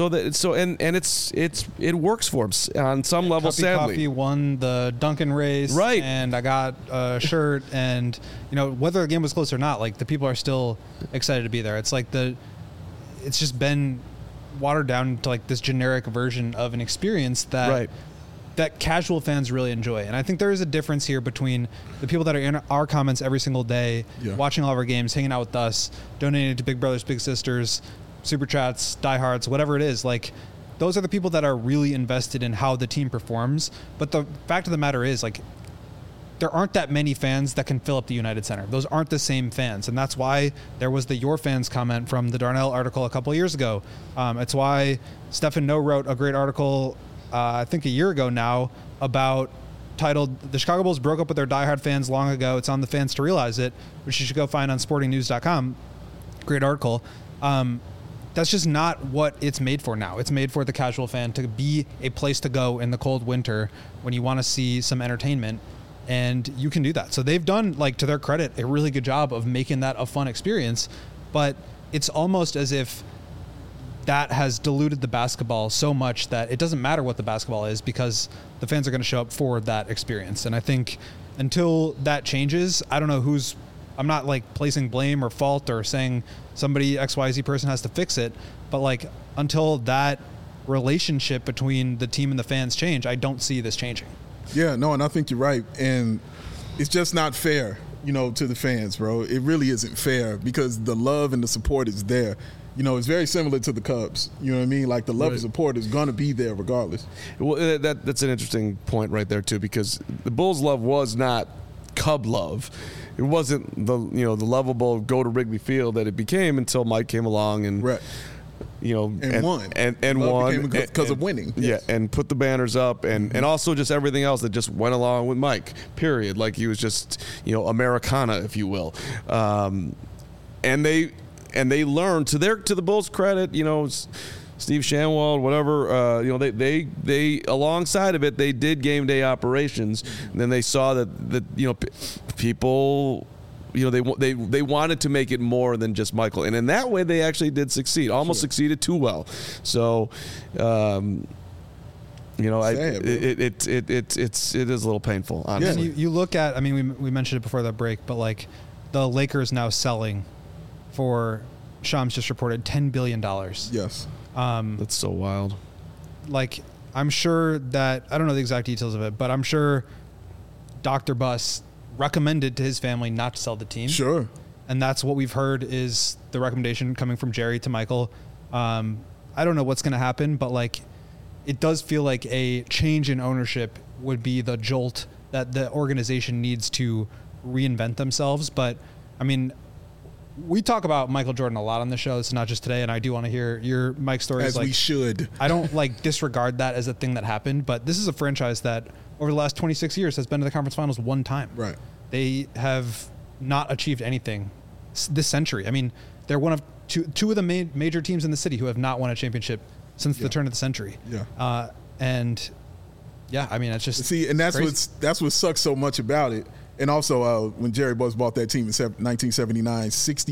it works for him on some level.
Cuppy
Sadly,
Coffee won the Duncan race,
right?
And I got a shirt, and whether the game was close or not, like the people are still excited to be there. It's like it's just been watered down to like this generic version of an experience that.
Right.
That casual fans really enjoy. And I think there is a difference here between the people that are in our comments every single day, watching all of our games, hanging out with us, donating to Big Brothers, Big Sisters, Super Chats, Diehards, whatever it is. Like, those are the people that are really invested in how the team performs. But the fact of the matter is, like, there aren't that many fans that can fill up the United Center. Those aren't the same fans. And that's why there was the Your Fans comment from the Darnell article a couple of years ago. It's why Stefan No wrote a great article I think a year ago now, titled "The Chicago Bulls Broke Up with Their Diehard Fans Long Ago. It's on the fans to realize it," which you should go find on sportingnews.com. Great article. That's just not what it's made for now. It's made for the casual fan to be a place to go in the cold winter when you want to see some entertainment, and you can do that. So they've done, like, to their credit, a really good job of making that a fun experience, but it's almost as if that has diluted the basketball so much that it doesn't matter what the basketball is because the fans are going to show up for that experience. And I think until that changes, I don't know I'm not like placing blame or fault or saying somebody XYZ person has to fix it, but like until that relationship between the team and the fans change, I don't see this changing.
Yeah, no, and I think you're right. And it's just not fair, to the fans, bro. It really isn't fair because the love and the support is there. It's very similar to the Cubs. You know what I mean? Like the love and support is going to be there regardless.
Well, that's an interesting point right there too, because the Bulls' love was not Cub love. It wasn't the lovable go to Wrigley Field that it became until Mike came along and
won because of winning.
Yeah, and put the banners up and also just everything else that just went along with Mike. Period. Like he was just Americana, if you will, and they learned to the Bulls' credit, Steve Shanwald, whatever, they alongside of it, they did game day operations. And then they saw that people, they wanted to make it more than just Michael, and in that way they actually did succeed, almost succeeded too well. So, it is a little painful, honestly.
Yeah. You look at, I mean, we mentioned it before the break, but like the Lakers now selling for, Shams just reported, $10 billion.
Yes.
That's so wild.
Like, I'm sure that, I don't know the exact details of it, but I'm sure Dr. Buss recommended to his family not to sell the team.
Sure.
And that's what we've heard is the recommendation coming from Jerry to Michael. I don't know what's going to happen, but like, it does feel like a change in ownership would be the jolt that the organization needs to reinvent themselves. But I mean, we talk about Michael Jordan a lot on the show. It's not just today, and I do want to hear your Mike stories.
As we should.
I don't like disregard that as a thing that happened, but this is a franchise that over the last 26 years has been to the conference finals one time.
Right.
They have not achieved anything this century. I mean, they're one of two of the major teams in the city who have not won a championship since the turn of the century.
Yeah.
And yeah, I mean, it's just
and that's
crazy.
that's what sucks so much about it. And also, when Jerry Buss bought that team in 1979,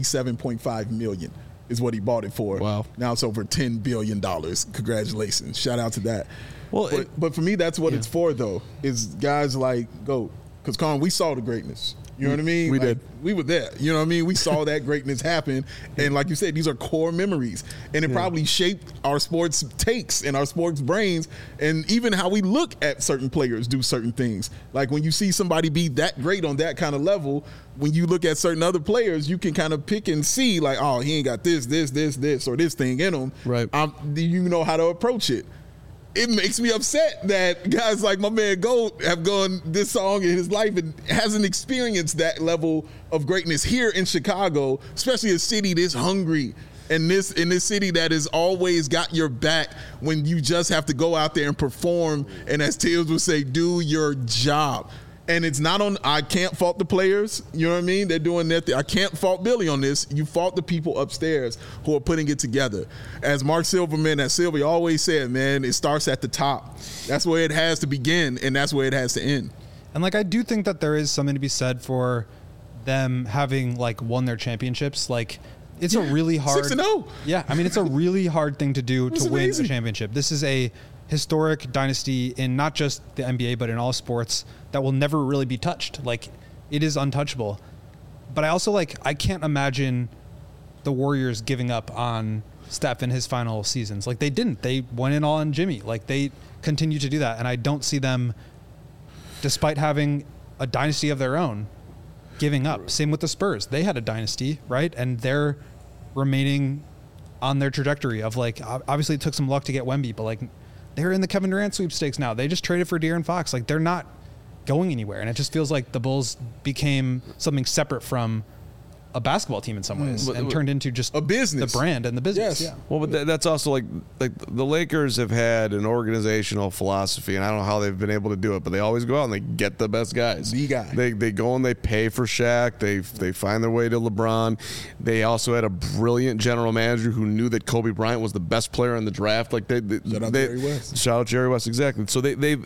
$67.5 million is what he bought it for.
Wow.
Now it's over $10 billion. Congratulations. Shout out to that.
Well,
but for me, that's what it's for, though, is guys like GOAT. Because, Colin, we saw the greatness. You know what I mean?
We did.
We were there. You know what I mean? We saw that greatness happen. And like you said, these are core memories. And it probably shaped our sports takes and our sports brains and even how we look at certain players do certain things. Like when you see somebody be that great on that kind of level, when you look at certain other players, you can kind of pick and see like, oh, he ain't got this, or this thing in him.
Right.
You know how to approach it. It makes me upset that guys like my man GOAT have gone this long in his life and hasn't experienced that level of greatness here in Chicago, especially a city this hungry and in this city that has always got your back when you just have to go out there and perform. And as Tibbs would say, do your job. And it's not on, I can't fault the players, you know what I mean? They're doing their thing. I can't fault Billy on this. You fault the people upstairs who are putting it together. As Mark Silverman at Sylvia always said, man, it starts at the top. That's where it has to begin, and that's where it has to end.
And like, I do think that there is something to be said for them having like won their championships. Like, it's a really hard
6-0.
Yeah, I mean, it's a really hard thing to do to win
amazing.
a championship. This is a historic dynasty in not just the NBA, but in all sports that will never really be touched. Like, it is untouchable. But I also I can't imagine the Warriors giving up on Steph in his final seasons. Like, they didn't. They went in all on Jimmy. Like, they continue to do that. And I don't see them, despite having a dynasty of their own, giving up. Same with the Spurs. They had a dynasty, right? And they're remaining on their trajectory of obviously it took some luck to get Wemby, but they're in the Kevin Durant sweepstakes now. They just traded for De'Aaron Fox. They're not going anywhere. And it just feels like the Bulls became something separate from a basketball team in some ways and turned into just
a business,
the brand and the business.
Yes.
Yeah.
Well, but that's also like the Lakers have had an organizational philosophy, and I don't know how they've been able to do it, but they always go out and they get the best guys.
The guy.
They go and they pay for Shaq. They find their way to LeBron. They also had a brilliant general manager who knew that Kobe Bryant was the best player in the draft. Shout
out Jerry West.
Shout out Jerry West, exactly. So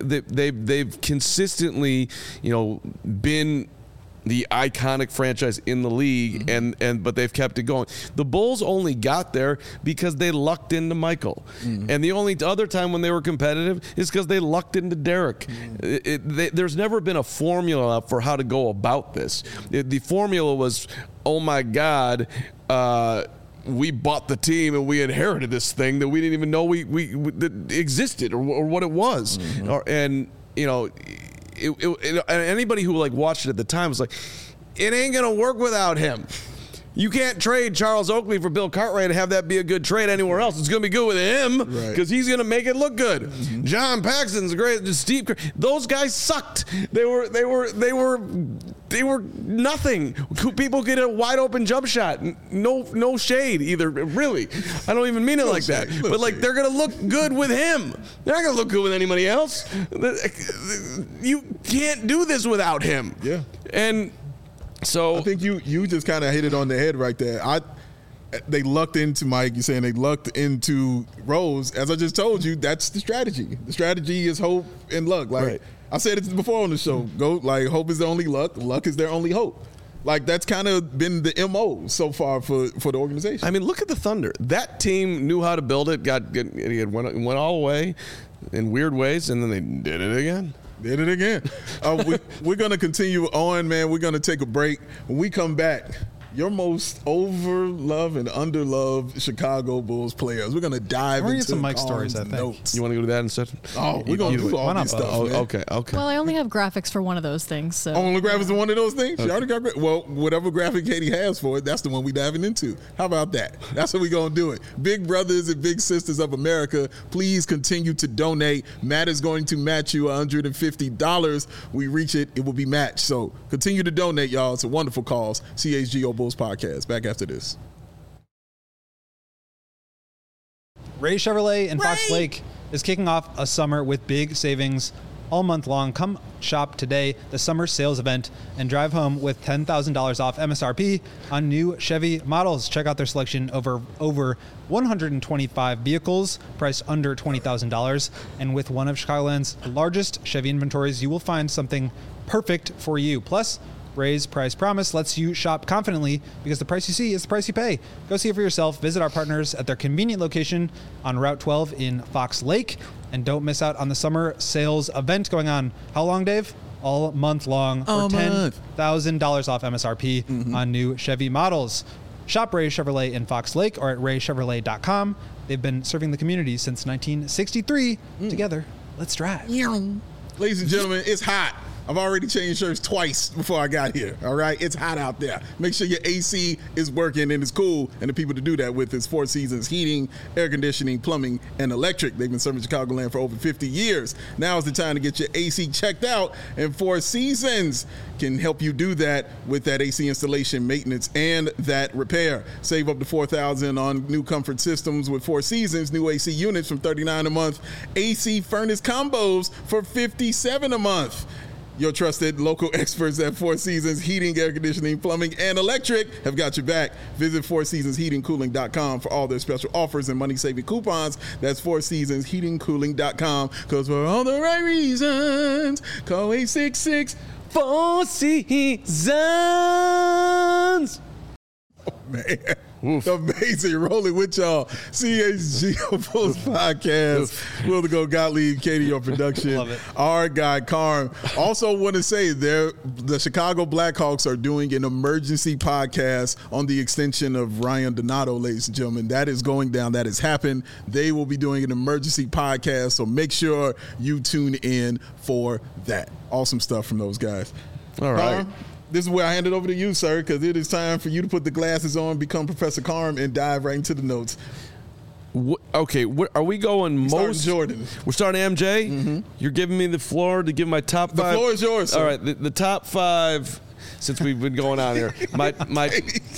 they've consistently, been the iconic franchise in the league, but they've kept it going. The Bulls only got there because they lucked into Michael, and the only other time when they were competitive is because they lucked into Derek. There's never been a formula for how to go about this. The formula was, oh my God, we bought the team and we inherited this thing that we didn't even know we that existed or what it was, and anybody who watched it at the time was like, it ain't gonna work without him. You can't trade Charles Oakley for Bill Cartwright and have that be a good trade anywhere else. It's gonna be good with him because he's gonna make it look good. John Paxson's great. Steve, those guys sucked. They were nothing. People get a wide open jump shot. No shade either. Really, I don't even mean it like that. But they're gonna look good with him. They're not gonna look good with anybody else. You can't do this without him.
Yeah.
And so
I think you just kind of hit it on the head right there. They lucked into Mike. You're saying they lucked into Rose. As I just told you, that's the strategy. The strategy is hope and luck.
Right.
I said it before on the show. Hope is the only luck. Luck is their only hope. That's kind of been the MO so far for the organization.
I mean, look at the Thunder. That team knew how to build it. It went all the way in weird ways, and then they did it again.
Did it again. We're going to continue on, man. We're going to take a break. When we come back, your most over-loved and under-loved Chicago Bulls players. We're going to dive into
some Mike stories, I think.
notes.
You want to go to that instead?
Oh, we're going to do all these stuff, man.
Okay.
Well, I only have graphics for one of those things. So.
Only graphics are one of those things? She already got well, whatever graphic Katie has for it, that's the one we diving into. How about that? That's what we're going to do it. Big brothers and big sisters of America, please continue to donate. Matt is going to match you $150. We reach it, it will be matched. So continue to donate, y'all. It's a wonderful cause. CHGO Bulls Podcast. Back after this.
Ray Chevrolet in Fox Lake is kicking off a summer with big savings all month long. Come shop today, the summer sales event, and drive home with $10,000 off MSRP on new Chevy models. Check out their selection over 125 vehicles priced under $20,000. And with one of Chicagoland's largest Chevy inventories, you will find something perfect for you. Plus, Ray's Price Promise lets you shop confidently because the price you see is the price you pay. Go see it for yourself. Visit our partners at their convenient location on Route 12 in Fox Lake. And don't miss out on the summer sales event going on. How long, Dave? All month long for $10,000 off MSRP on new Chevy models. Shop Ray Chevrolet in Fox Lake or at raychevrolet.com. They've been serving the community since 1963. Together, let's drive.
Ladies and gentlemen, it's hot. I've already changed shirts twice before I got here, all right? It's hot out there. Make sure your AC is working and it's cool, and the people to do that with is Four Seasons Heating, Air Conditioning, Plumbing, and Electric. They've been serving Chicagoland for over 50 years. Now is the time to get your AC checked out, and Four Seasons can help you do that with that AC installation, maintenance, and that repair. Save up to $4,000 on new comfort systems with Four Seasons, new AC units from $39 a month, AC furnace combos for $57 a month. Your trusted local experts at Four Seasons Heating, Air Conditioning, Plumbing, and Electric have got your back. Visit FourSeasonsHeatingCooling.com for all their special offers and money-saving coupons. That's FourSeasonsHeatingCooling.com. Because for all the right reasons, call 866
Four Seasons.
Oh, man. Amazing. Rolling with y'all. CHGO Post Podcast. Will the Go Gottlieb, Katie, your production.
Love it.
Our guy, Carm. Also want to say the Chicago Blackhawks are doing an emergency podcast on the extension of Ryan Donato, ladies and gentlemen. That is going down. That has happened. They will be doing an emergency podcast, so make sure you tune in for that. Awesome stuff from those guys.
All right.
This is where I hand it over to you, sir, because it is time for you to put the glasses on, become Professor Carm, and dive right into the notes.
Okay, are we going most?
Jordan.
We're starting MJ. Mm-hmm. You're giving me the floor to give my top five.
The floor is yours, sir.
All right, the top five. Since we've been going on here, my what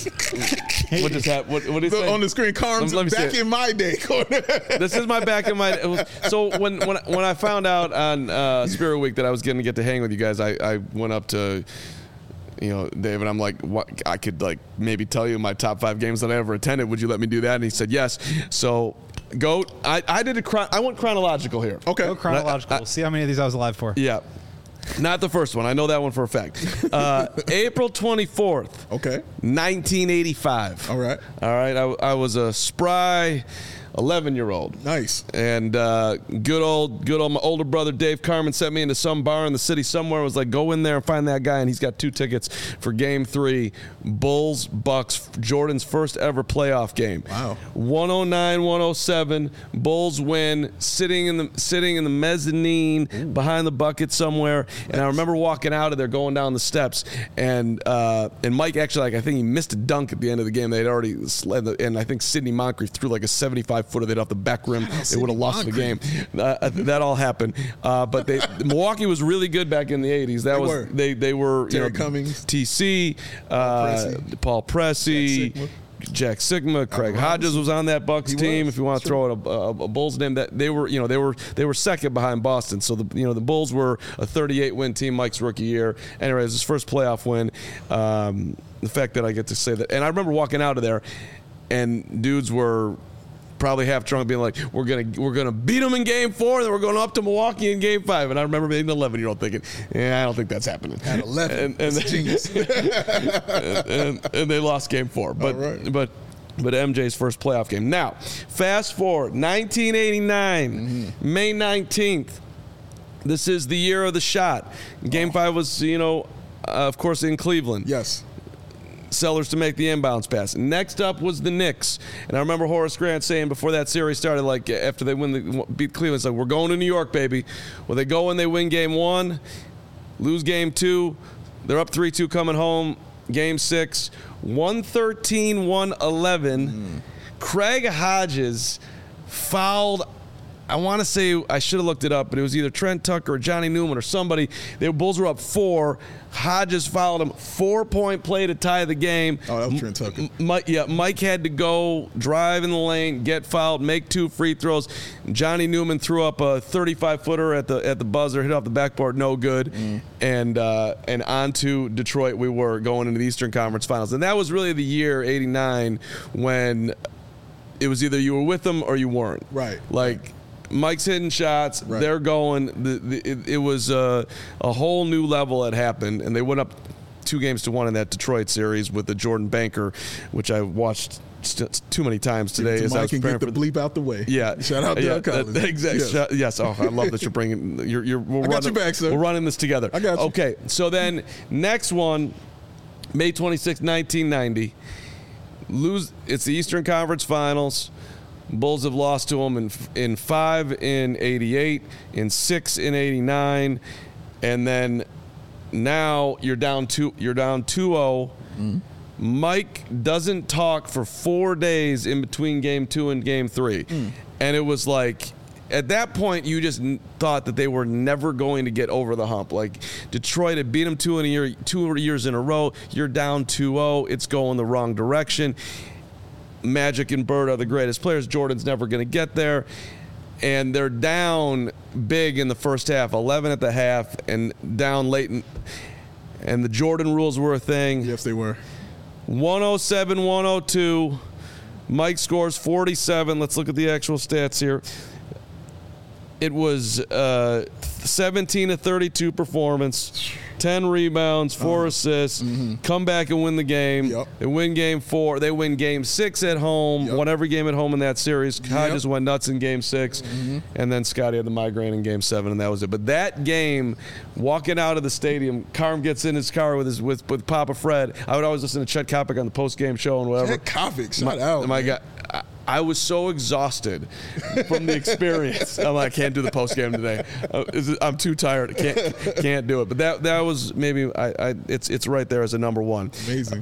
just happened? What is
on the screen? Carm's back in my day.
This is my back in my. So when I found out on Spirit Week that I was going to get to hang with you guys, I went up to. David, I'm like, what? I could maybe tell you my top 5 games that I ever attended. Would you let me do that? And he said yes. So, GOAT. I did I went chronological here.
Okay, go chronological. See how many of these I was alive for.
Yeah, not the first one. I know that one for a fact. April 24th.
Okay.
1985.
All right.
I was a spry 11-year-old.
Nice.
And good old my older brother Dave Carmen sent me into some bar in the city somewhere. Was like, go in there and find that guy, and he's got 2 tickets for Game 3, Bulls Bucks, Jordan's first ever playoff game.
Wow.
109-107, Bulls win. Sitting in the mezzanine behind the bucket somewhere, and I remember walking out of there, going down the steps, and Mike actually I think he missed a dunk at the end of the game. They'd already and I think Sidney Moncrief threw like a 75-footer that off the back rim. They would have lost the game. That all happened. But Milwaukee was really good back in the 80s. They were
Derek Cummings,
TC, Paul Pressey, Jack Sigma, Craig Hodges was on that Bucks team. If you want to throw out a Bulls name, that they were second behind Boston. So the Bulls were a 38-win team Mike's rookie year. Anyway, it was his first playoff win. The fact that I get to say that, and I remember walking out of there, and dudes were probably half drunk, being like, "We're gonna beat them in Game 4, and then we're going up to Milwaukee in Game 5." And I remember being an 11-year-old thinking, "Yeah, I don't think that's happening."
At 11, and genius.
and they lost Game 4, but MJ's first playoff game. Now, fast forward, 1989, May 19th. This is the year of the shot. Game 5 was, of course, in Cleveland.
Yes.
Sellers to make the inbounds pass. Next up was the Knicks. And I remember Horace Grant saying before that series started, after they beat Cleveland, it's like, we're going to New York, baby. Well, they go and they win Game 1, lose Game 2. They're up 3-2 coming home. Game 6, 113-111. Craig Hodges fouled I want to say I should have looked it up, but it was either Trent Tucker or Johnny Newman or somebody. The Bulls were up 4. Hodges fouled him. 4-point play to tie the game.
Oh, that was Trent Tucker.
Mike had to go drive in the lane, get fouled, make 2 free throws. Johnny Newman threw up a 35-footer at the buzzer, hit off the backboard, no good. And on to Detroit we were going into the Eastern Conference Finals. And that was really the year, 89, when it was either you were with them or you weren't.
Right.
Like, Mike's hitting shots.
Right.
They're going. It was a whole new level that happened, and they went up 2-1 in that Detroit series with the Jordan Banker, which I watched too many times today. As I was
Mike can
preparing
get the bleep out the way.
Yeah.
Shout out Doug Collins.
Exactly. Yes. Oh, I love that you're bringing.
I got your back, sir.
We're running this together.
I got you.
Okay. So then, next one, May 26, 1990. It's the Eastern Conference Finals. Bulls have lost to them in 5 in 88, in 6 in 89, and then now you're down 2-0. Mike doesn't talk for 4 days in between game 2 and game 3. And it was like, at that point, you just thought that they were never going to get over the hump. Like, Detroit had beat them 2 years in a row. You're down 2-0. It's going the wrong direction. Magic and Bird are the greatest players. Jordan's never going to get there. And they're down big in the first half, 11 at the half, and down late. And the Jordan rules were a thing.
Yes, they were.
107-102. Mike scores 47. Let's look at the actual stats here. It was 17-32 performance, 10 rebounds, 4 assists, come back and win the game.
Yep.
They win game 4. They win game 6 at home, won every game at home in that series. Hodges went nuts in game 6, and then Scotty had the migraine in game 7, and that was it. But that game, walking out of the stadium, Carm gets in his car with Papa Fred. I would always listen to Chet Kopic on the post-game show and whatever.
Chet Kopic, shout out.
My God. I was so exhausted from the experience. I'm like, I can't do the post game today. I'm too tired. Can't do it. But that was maybe it's right there as a number 1.
Amazing.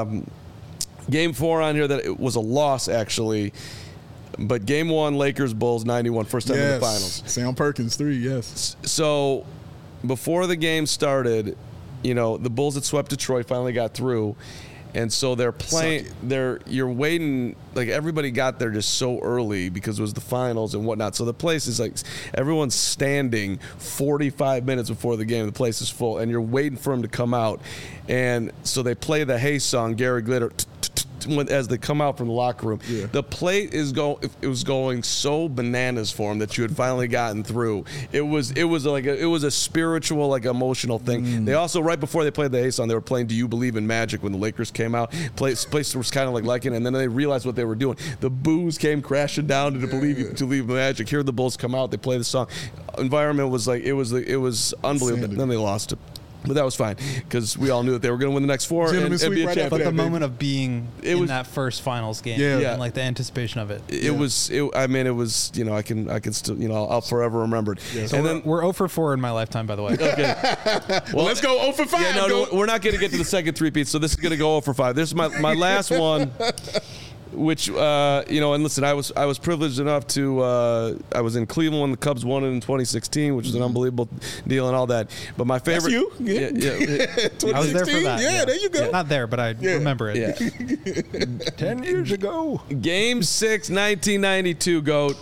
Game 4 on here that it was a loss actually, but game 1 Lakers Bulls 91, first time in the finals.
Sam Perkins 3. Yes.
So before the game started, the Bulls had swept Detroit, finally got through. And so they're playing. You're waiting. Like, everybody got there just so early because it was the finals and whatnot. So the place is like, everyone's standing 45 minutes before the game. The place is full, and you're waiting for them to come out. And so they play the Hey song, Gary Glitter, as they come out from the locker room.
Yeah.
The plate it was going so bananas for him that you had finally gotten through. It was a spiritual, like, emotional thing. They also, right before they played the Hey song, they were playing Do You Believe in Magic when the Lakers came out. Place was kind of like liking it, and then they realized what they were doing. The boos came crashing down to Believe in Magic. Here the Bulls come out, they play the song. Environment was like, it was unbelievable. Then they lost it. But that was fine because we all knew that they were going to win the next 4 and be a champion.
But the moment of being in that first finals game, and like the anticipation of it,
it was. I was. I can still. I'll forever remember it.
Yeah. So we're 0 for 4 in my lifetime, by the way.
Okay.
Well, let's go 0 for 5.
Yeah, no, we're not going to get to the second three-peat, so this is going to go 0 for 5. This is my last one. Which and listen, I was privileged enough to I was in Cleveland when the Cubs won it in 2016, which was an unbelievable deal and all that. But my favorite,
that's you,
yeah.
I was there for that.
Yeah, there you go.
Yeah, not there, but I remember it.
Yeah.
10 years ago,
Game 6, 1992. Goat.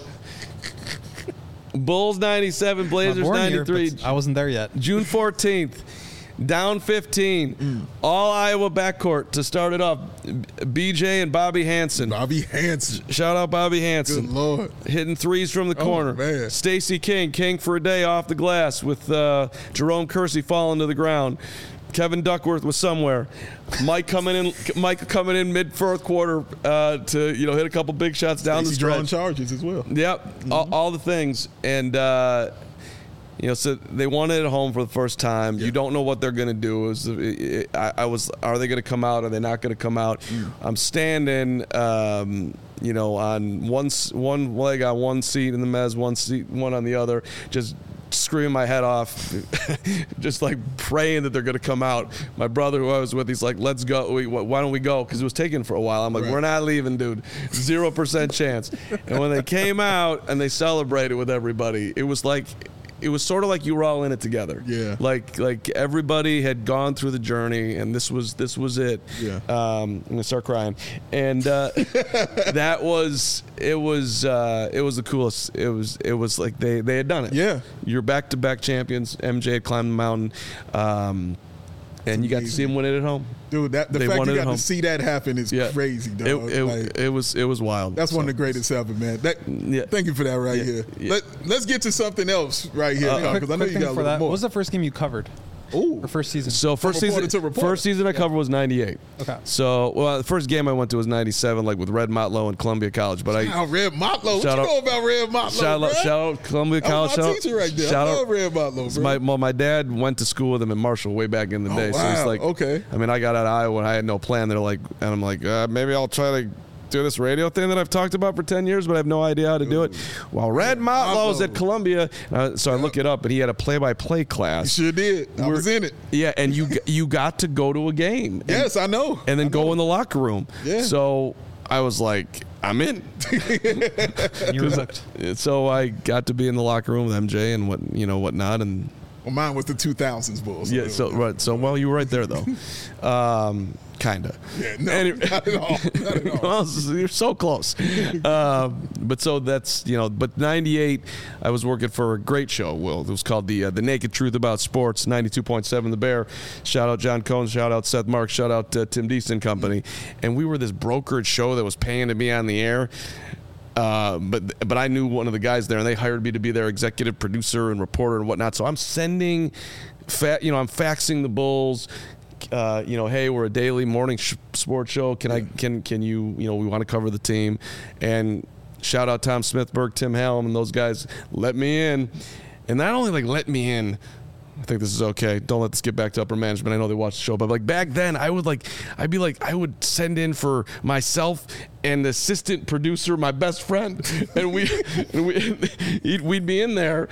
Bulls 97, Blazers 93.
I wasn't there yet.
June 14th. Down 15. All Iowa backcourt to start it off. BJ and Bobby Hansen.
Bobby Hansen.
Shout out Bobby Hansen.
Good Lord.
Hitting threes from the corner.
Man.
Stacey King for a day off the glass with Jerome Kersey falling to the ground. Kevin Duckworth was somewhere. Mike coming in mid fourth quarter to hit a couple big shots down the stretch.
Drawing charges as well.
Yep, all the things. And so they won it at home for the first time. Yeah. You don't know what they're going to do. Are they going to come out? Are they not going to come out? I'm standing, on one leg on one seat in the mezz, one on the other, just screaming my head off, just like praying that they're going to come out. My brother, who I was with, he's like, let's go. Why don't we go? Because it was taken for a while. I'm like, we're not leaving, dude. 0% chance. And when they came out and they celebrated with everybody, it was sort of like you were all in it together.
Yeah.
Like everybody had gone through the journey, and this was it.
Yeah.
I'm gonna start crying, and it was the coolest. It was like they had done it.
Yeah.
You're back-to-back champions. MJ had climbed the mountain, and you got to see him win it at home.
Dude, the
They
fact
won
you
it at
got
home.
to see that happen is crazy, dog.
It was wild.
That's one of the greatest ever, man. Thank you for that here.
Yeah.
Let's get to something else right here, because I know you got a little more.
What was the first game you covered?
Ooh.
For first season?
So first season I covered was 98.
Okay.
So the first game I went to was 97, like with Red Motlow and Columbia College. But
Red Motlow. What
Shout
you
out-
know about Red Motlow,
shout out Columbia College.
That's my teacher right there. I love Red Motlow, bro.
My dad went to school with him in Marshall way back in the day. So
wow.
he's like,
Okay.
I mean, I got out of Iowa and I had no plan. They're like, and I'm like, maybe I'll try to do this radio thing that I've talked about for 10 years, but I have no idea how to do it. Well, Red Motlow's at Columbia, so I look it up, and he had a play-by-play class.
You sure did. I was in it.
Yeah, and you got to go to a game.
Yes, I know.
And then go in the locker room.
Yeah.
So I was like, I'm in.
You were hooked.
So I got to be in the locker room with MJ and whatnot, and
Well, mine was the 2000s Bulls.
yeah. So right. So well, you were right there though. Kinda.
Yeah, no, not at all. Not at all.
Well, you're so close. But so that's But '98, I was working for a great show. Will, it was called the Naked Truth About Sports. 92.7 The Bear. Shout out John Cohn. Shout out Seth Marks. Shout out Tim Deaston Company. And we were this brokerage show that was paying to be on the air. But I knew one of the guys there, and they hired me to be their executive producer and reporter and whatnot. So I'm sending, I'm faxing the Bulls. Hey, we're a daily morning sports show. Can you, we want to cover the team. And shout out Tom Smithberg, Tim Helm, and those guys let me in. And not only let me in, I think this is okay. Don't let this get back to upper management. I know they watch the show, but back then I would send in for myself and the assistant producer, my best friend, and we'd be in there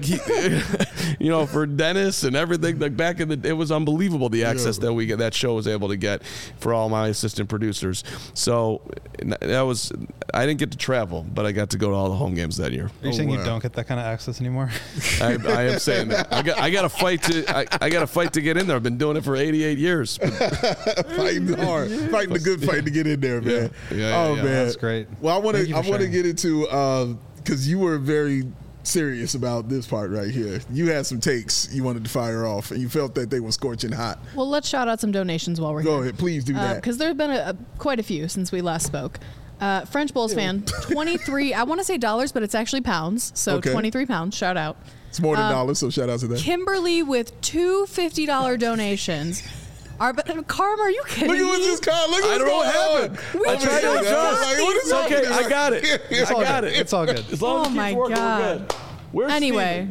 for Dennis and everything. Back in it was unbelievable the access that show was able to get for all my assistant producers. So I didn't get to travel, but I got to go to all the home games that year.
Are you saying you don't get that kind of access anymore?
I am saying that. I got to fight to get in there. I've been doing it for 88 years.
Fighting hard, fighting the good fight to get in there, man.
Yeah.
Man,
that's great.
Well, I want to
sharing.
get into because you were very serious about this part right here. You had some takes you wanted to fire off, and you felt that they were scorching hot.
Well, let's shout out some donations while we're here.
Go ahead, please do that.
Because there have been quite a few since we last spoke. French Bulls fan, 23, I want to say dollars, but it's actually pounds. So
Okay.
23 pounds, shout out.
It's more than dollars, so shout out to that.
Kimberly with two $50 donations. Carm, are you kidding
Look at
me?
what's this card. Look at
I don't know what happened.
We
I tried to adjust.
What is
It's okay.
happening?
I got it.
It's all good. It's all good.
As long as
Oh
it
my
keeps working,
God.
we're good. Where's
Anyway.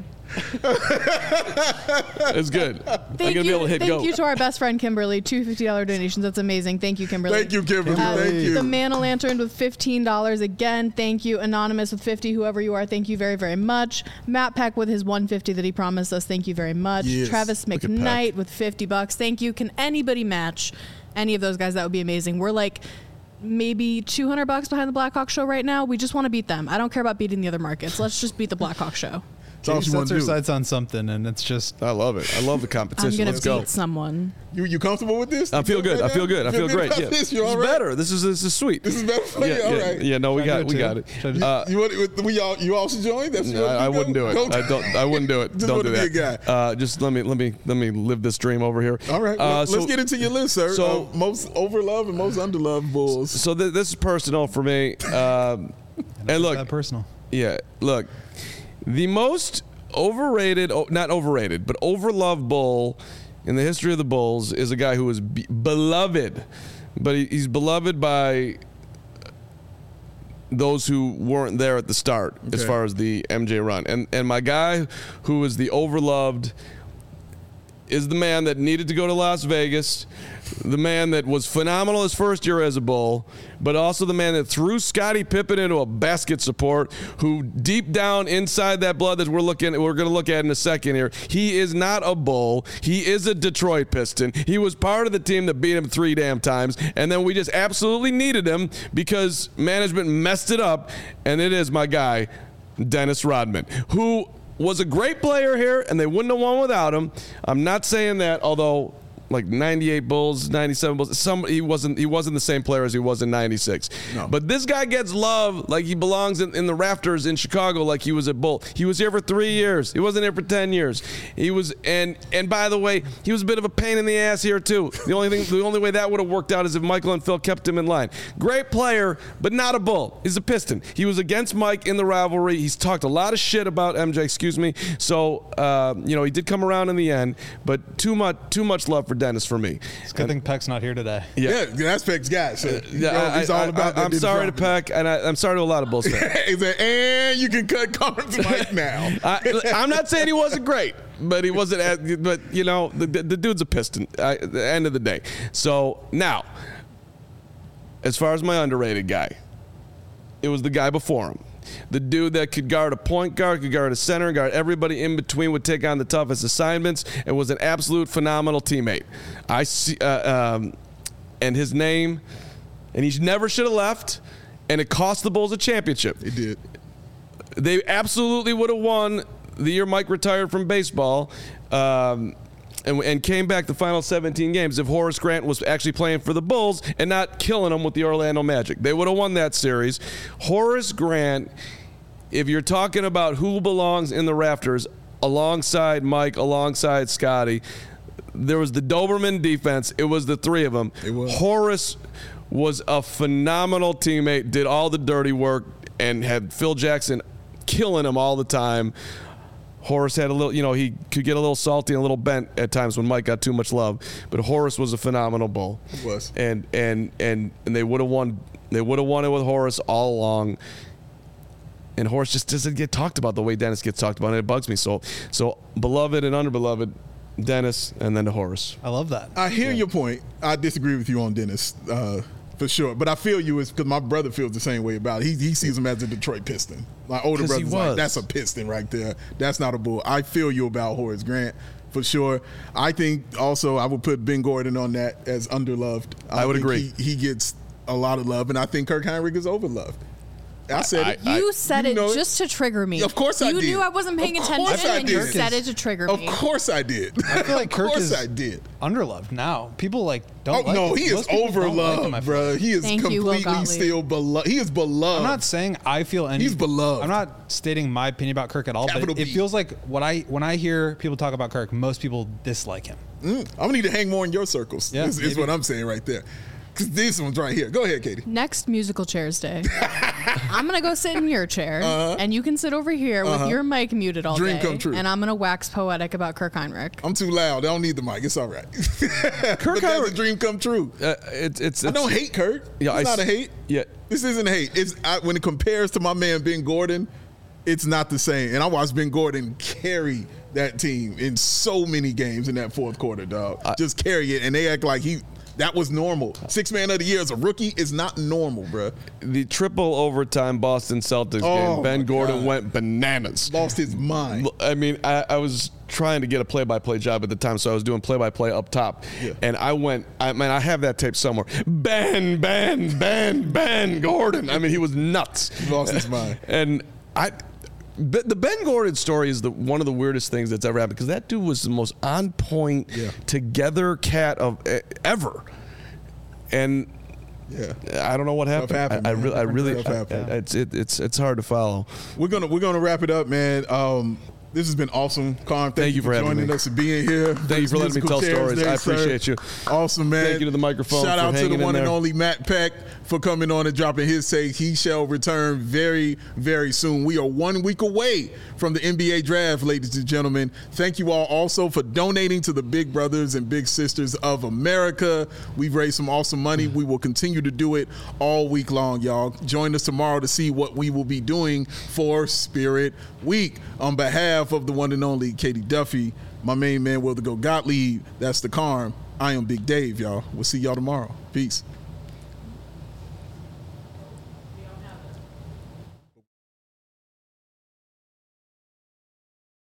It's good. I'm going to be able to hit go.
Thank you to our best friend Kimberly. Two $50 donations. That's amazing. Thank you, Kimberly.
Thank you, Kimberly. Thank you.
The Man o' Lantern with $15. Again, thank you. Anonymous with 50, whoever you are, thank you very, very much. Matt Peck with his $150 that he promised us. Thank you very much.
Yes.
Travis
Look at
McKnight with $50. Thank you. Can anybody match any of those guys? That would be amazing. We're like maybe $200 behind the Blackhawk show right now. We just want to beat them. I don't care about beating the other markets. Let's just beat the Blackhawk show.
That's all
She
she wants
sets
to
her
do.
sights on something, and it's just
I love it. I love the
I'm
competition.
gonna
Let's
beat
go.
someone.
You comfortable with this?
I feel good. I feel good. I feel great. Yeah.
This? You all
It's
right?
better. This is sweet.
This is better for you?
Yeah,
All
yeah,
right.
yeah. No, we
Should I
got
do
it.
it
We got
too?
it.
Should I do
You also join? That's
No, I wouldn't do it.
Don't-
I wouldn't do it.
Just
Don't
wanna
do
be a
that. Just let me live this dream over here.
All right. Well,
So-
let's get into your list, sir.
so-
Most overloved and most underloved Bulls.
So this is personal for me. And
that
look,
personal.
yeah, look, the most overrated, not overrated, but overloved Bull in the history of the Bulls is a guy who was beloved, but he's beloved by those who weren't there at the start as far as the MJ run. And my guy who was the overloved is the man that needed to go to Las Vegas, the man that was phenomenal his first year as a Bull, but also the man that threw Scottie Pippen into a basket support, who deep down inside that blood that we're going to look at in a second here, he is not a Bull. He is a Detroit Piston. He was part of the team that beat him 3 damn times, and then we just absolutely needed him because management messed it up, and it is my guy, Dennis Rodman, who was a great player here, and they wouldn't have won without him. I'm not saying that, although like 98 Bulls, 97 Bulls, he wasn't the same player as he was in 96.
No.
But this guy gets love like he belongs in the rafters in Chicago like he was a Bull. He was here for 3 years. He wasn't here for 10 years. He was, and by the way, he was a bit of a pain in the ass here too. The only way that would have worked out is if Michael and Phil kept him in line. Great player, but not a Bull. He's a Piston. He was against Mike in the rivalry. He's talked a lot of shit about MJ, So, he did come around in the end, but too much love for Dennis for me.
It's a good thing Peck's not here today.
Yeah, that's Peck's guy. So he's all about that.
I'm sorry to Peck, and I'm sorry to a lot of Bulls fans.
And you can cut Carter's mic now.
I'm not saying he wasn't great, but he wasn't. The dude's a Piston at the end of the day. So now, as far as my underrated guy, it was the guy before him. The dude that could guard a point guard, could guard a center, guard everybody in between, would take on the toughest assignments, and was an absolute phenomenal teammate. I see, and his name, and he never should have left, and it cost the Bulls a championship.
It did.
They absolutely would have won the year Mike retired from baseball. And came back the final 17 games if Horace Grant was actually playing for the Bulls and not killing them with the Orlando Magic. They would have won that series. Horace Grant, if you're talking about who belongs in the rafters alongside Mike, alongside Scottie, there was the Doberman defense. It was the 3 of them. Horace was a phenomenal teammate, did all the dirty work, and had Phil Jackson killing him all the time. Horace had a little, he could get a little salty and a little bent at times when Mike got too much love. But Horace was a phenomenal Bull.
He was.
And they would have won. They would have won it with Horace all along. And Horace just doesn't get talked about the way Dennis gets talked about, and it bugs me. So beloved and underbeloved, Dennis, and then to Horace.
I love that.
I hear your point. I disagree with you on Dennis. For sure. But I feel you is because my brother feels the same way about it. He sees him as a Detroit Piston. My older brother's like, that's a Piston right there. That's not a Bull. I feel you about Horace Grant for sure. I think also I would put Ben Gordon on that as underloved.
I would agree.
He gets a lot of love, and I think Kirk Hinrich is overloved. I said it.
You said it just to trigger me.
Of course I did.
You knew I wasn't paying attention, and you said it to trigger me.
Of course I did.
I feel like Kirk is
I did.
underloved now. People don't like
no,
him.
he is overloved, bro. He is completely still beloved. He is beloved.
I'm not saying I feel any.
He's beloved.
I'm not stating my opinion about Kirk at all,
Capital
but it
B.
feels like when I hear people talk about Kirk, most people dislike him.
I'm gonna need to hang more in your circles.
Yeah,
is what I'm saying right there. Because this one's right here. Go ahead, Katie.
Next musical chairs day, I'm gonna go sit in your chair, and you can sit over here with your mic muted all
Dream
day.
come true.
And I'm gonna wax poetic about Kirk Hinrich.
I'm too loud. I don't need the mic. It's all right.
Kirk
That's a dream come true.
I
don't hate Kirk.
Yeah,
it's not a hate.
Yeah.
This isn't hate. When it compares to my man Ben Gordon, it's not the same. And I watched Ben Gordon carry that team in so many games in that fourth quarter, dog. Just carry it, and they act like that was normal. 6th man of the year as a rookie is not normal, bro.
The triple overtime Boston Celtics game, Ben Gordon went bananas.
Lost his mind.
I mean, I was trying to get a play-by-play job at the time, so I was doing play-by-play up top. Yeah. And I have that tape somewhere. Ben Gordon. I mean, he was nuts.
He lost his mind.
And the Ben Gordon story is one of the weirdest things that's ever happened, because that dude was the most on-point, together cat of ever. And I don't know what happened. It's hard to follow.
We're gonna wrap it up, man. This has been awesome, Carm. Thank you for
joining
us and being here.
Thank you for letting me tell stories. I appreciate you.
Awesome, man.
Thank you to the microphone.
Shout out to the one
and
only Matt Peck for coming on and dropping his take. He shall return very, very soon. We are 1 week away from the NBA draft, ladies and gentlemen. Thank you all also for donating to the Big Brothers and Big Sisters of America. We've raised some awesome money. We will continue to do it all week long, y'all. Join us tomorrow to see what we will be doing for Spirit Week. On behalf behalf of the one and only Katie Duffy, my main man, Will the Go Gottlieb, that's the Carm. I am Big Dave, y'all. We'll see y'all tomorrow. Peace.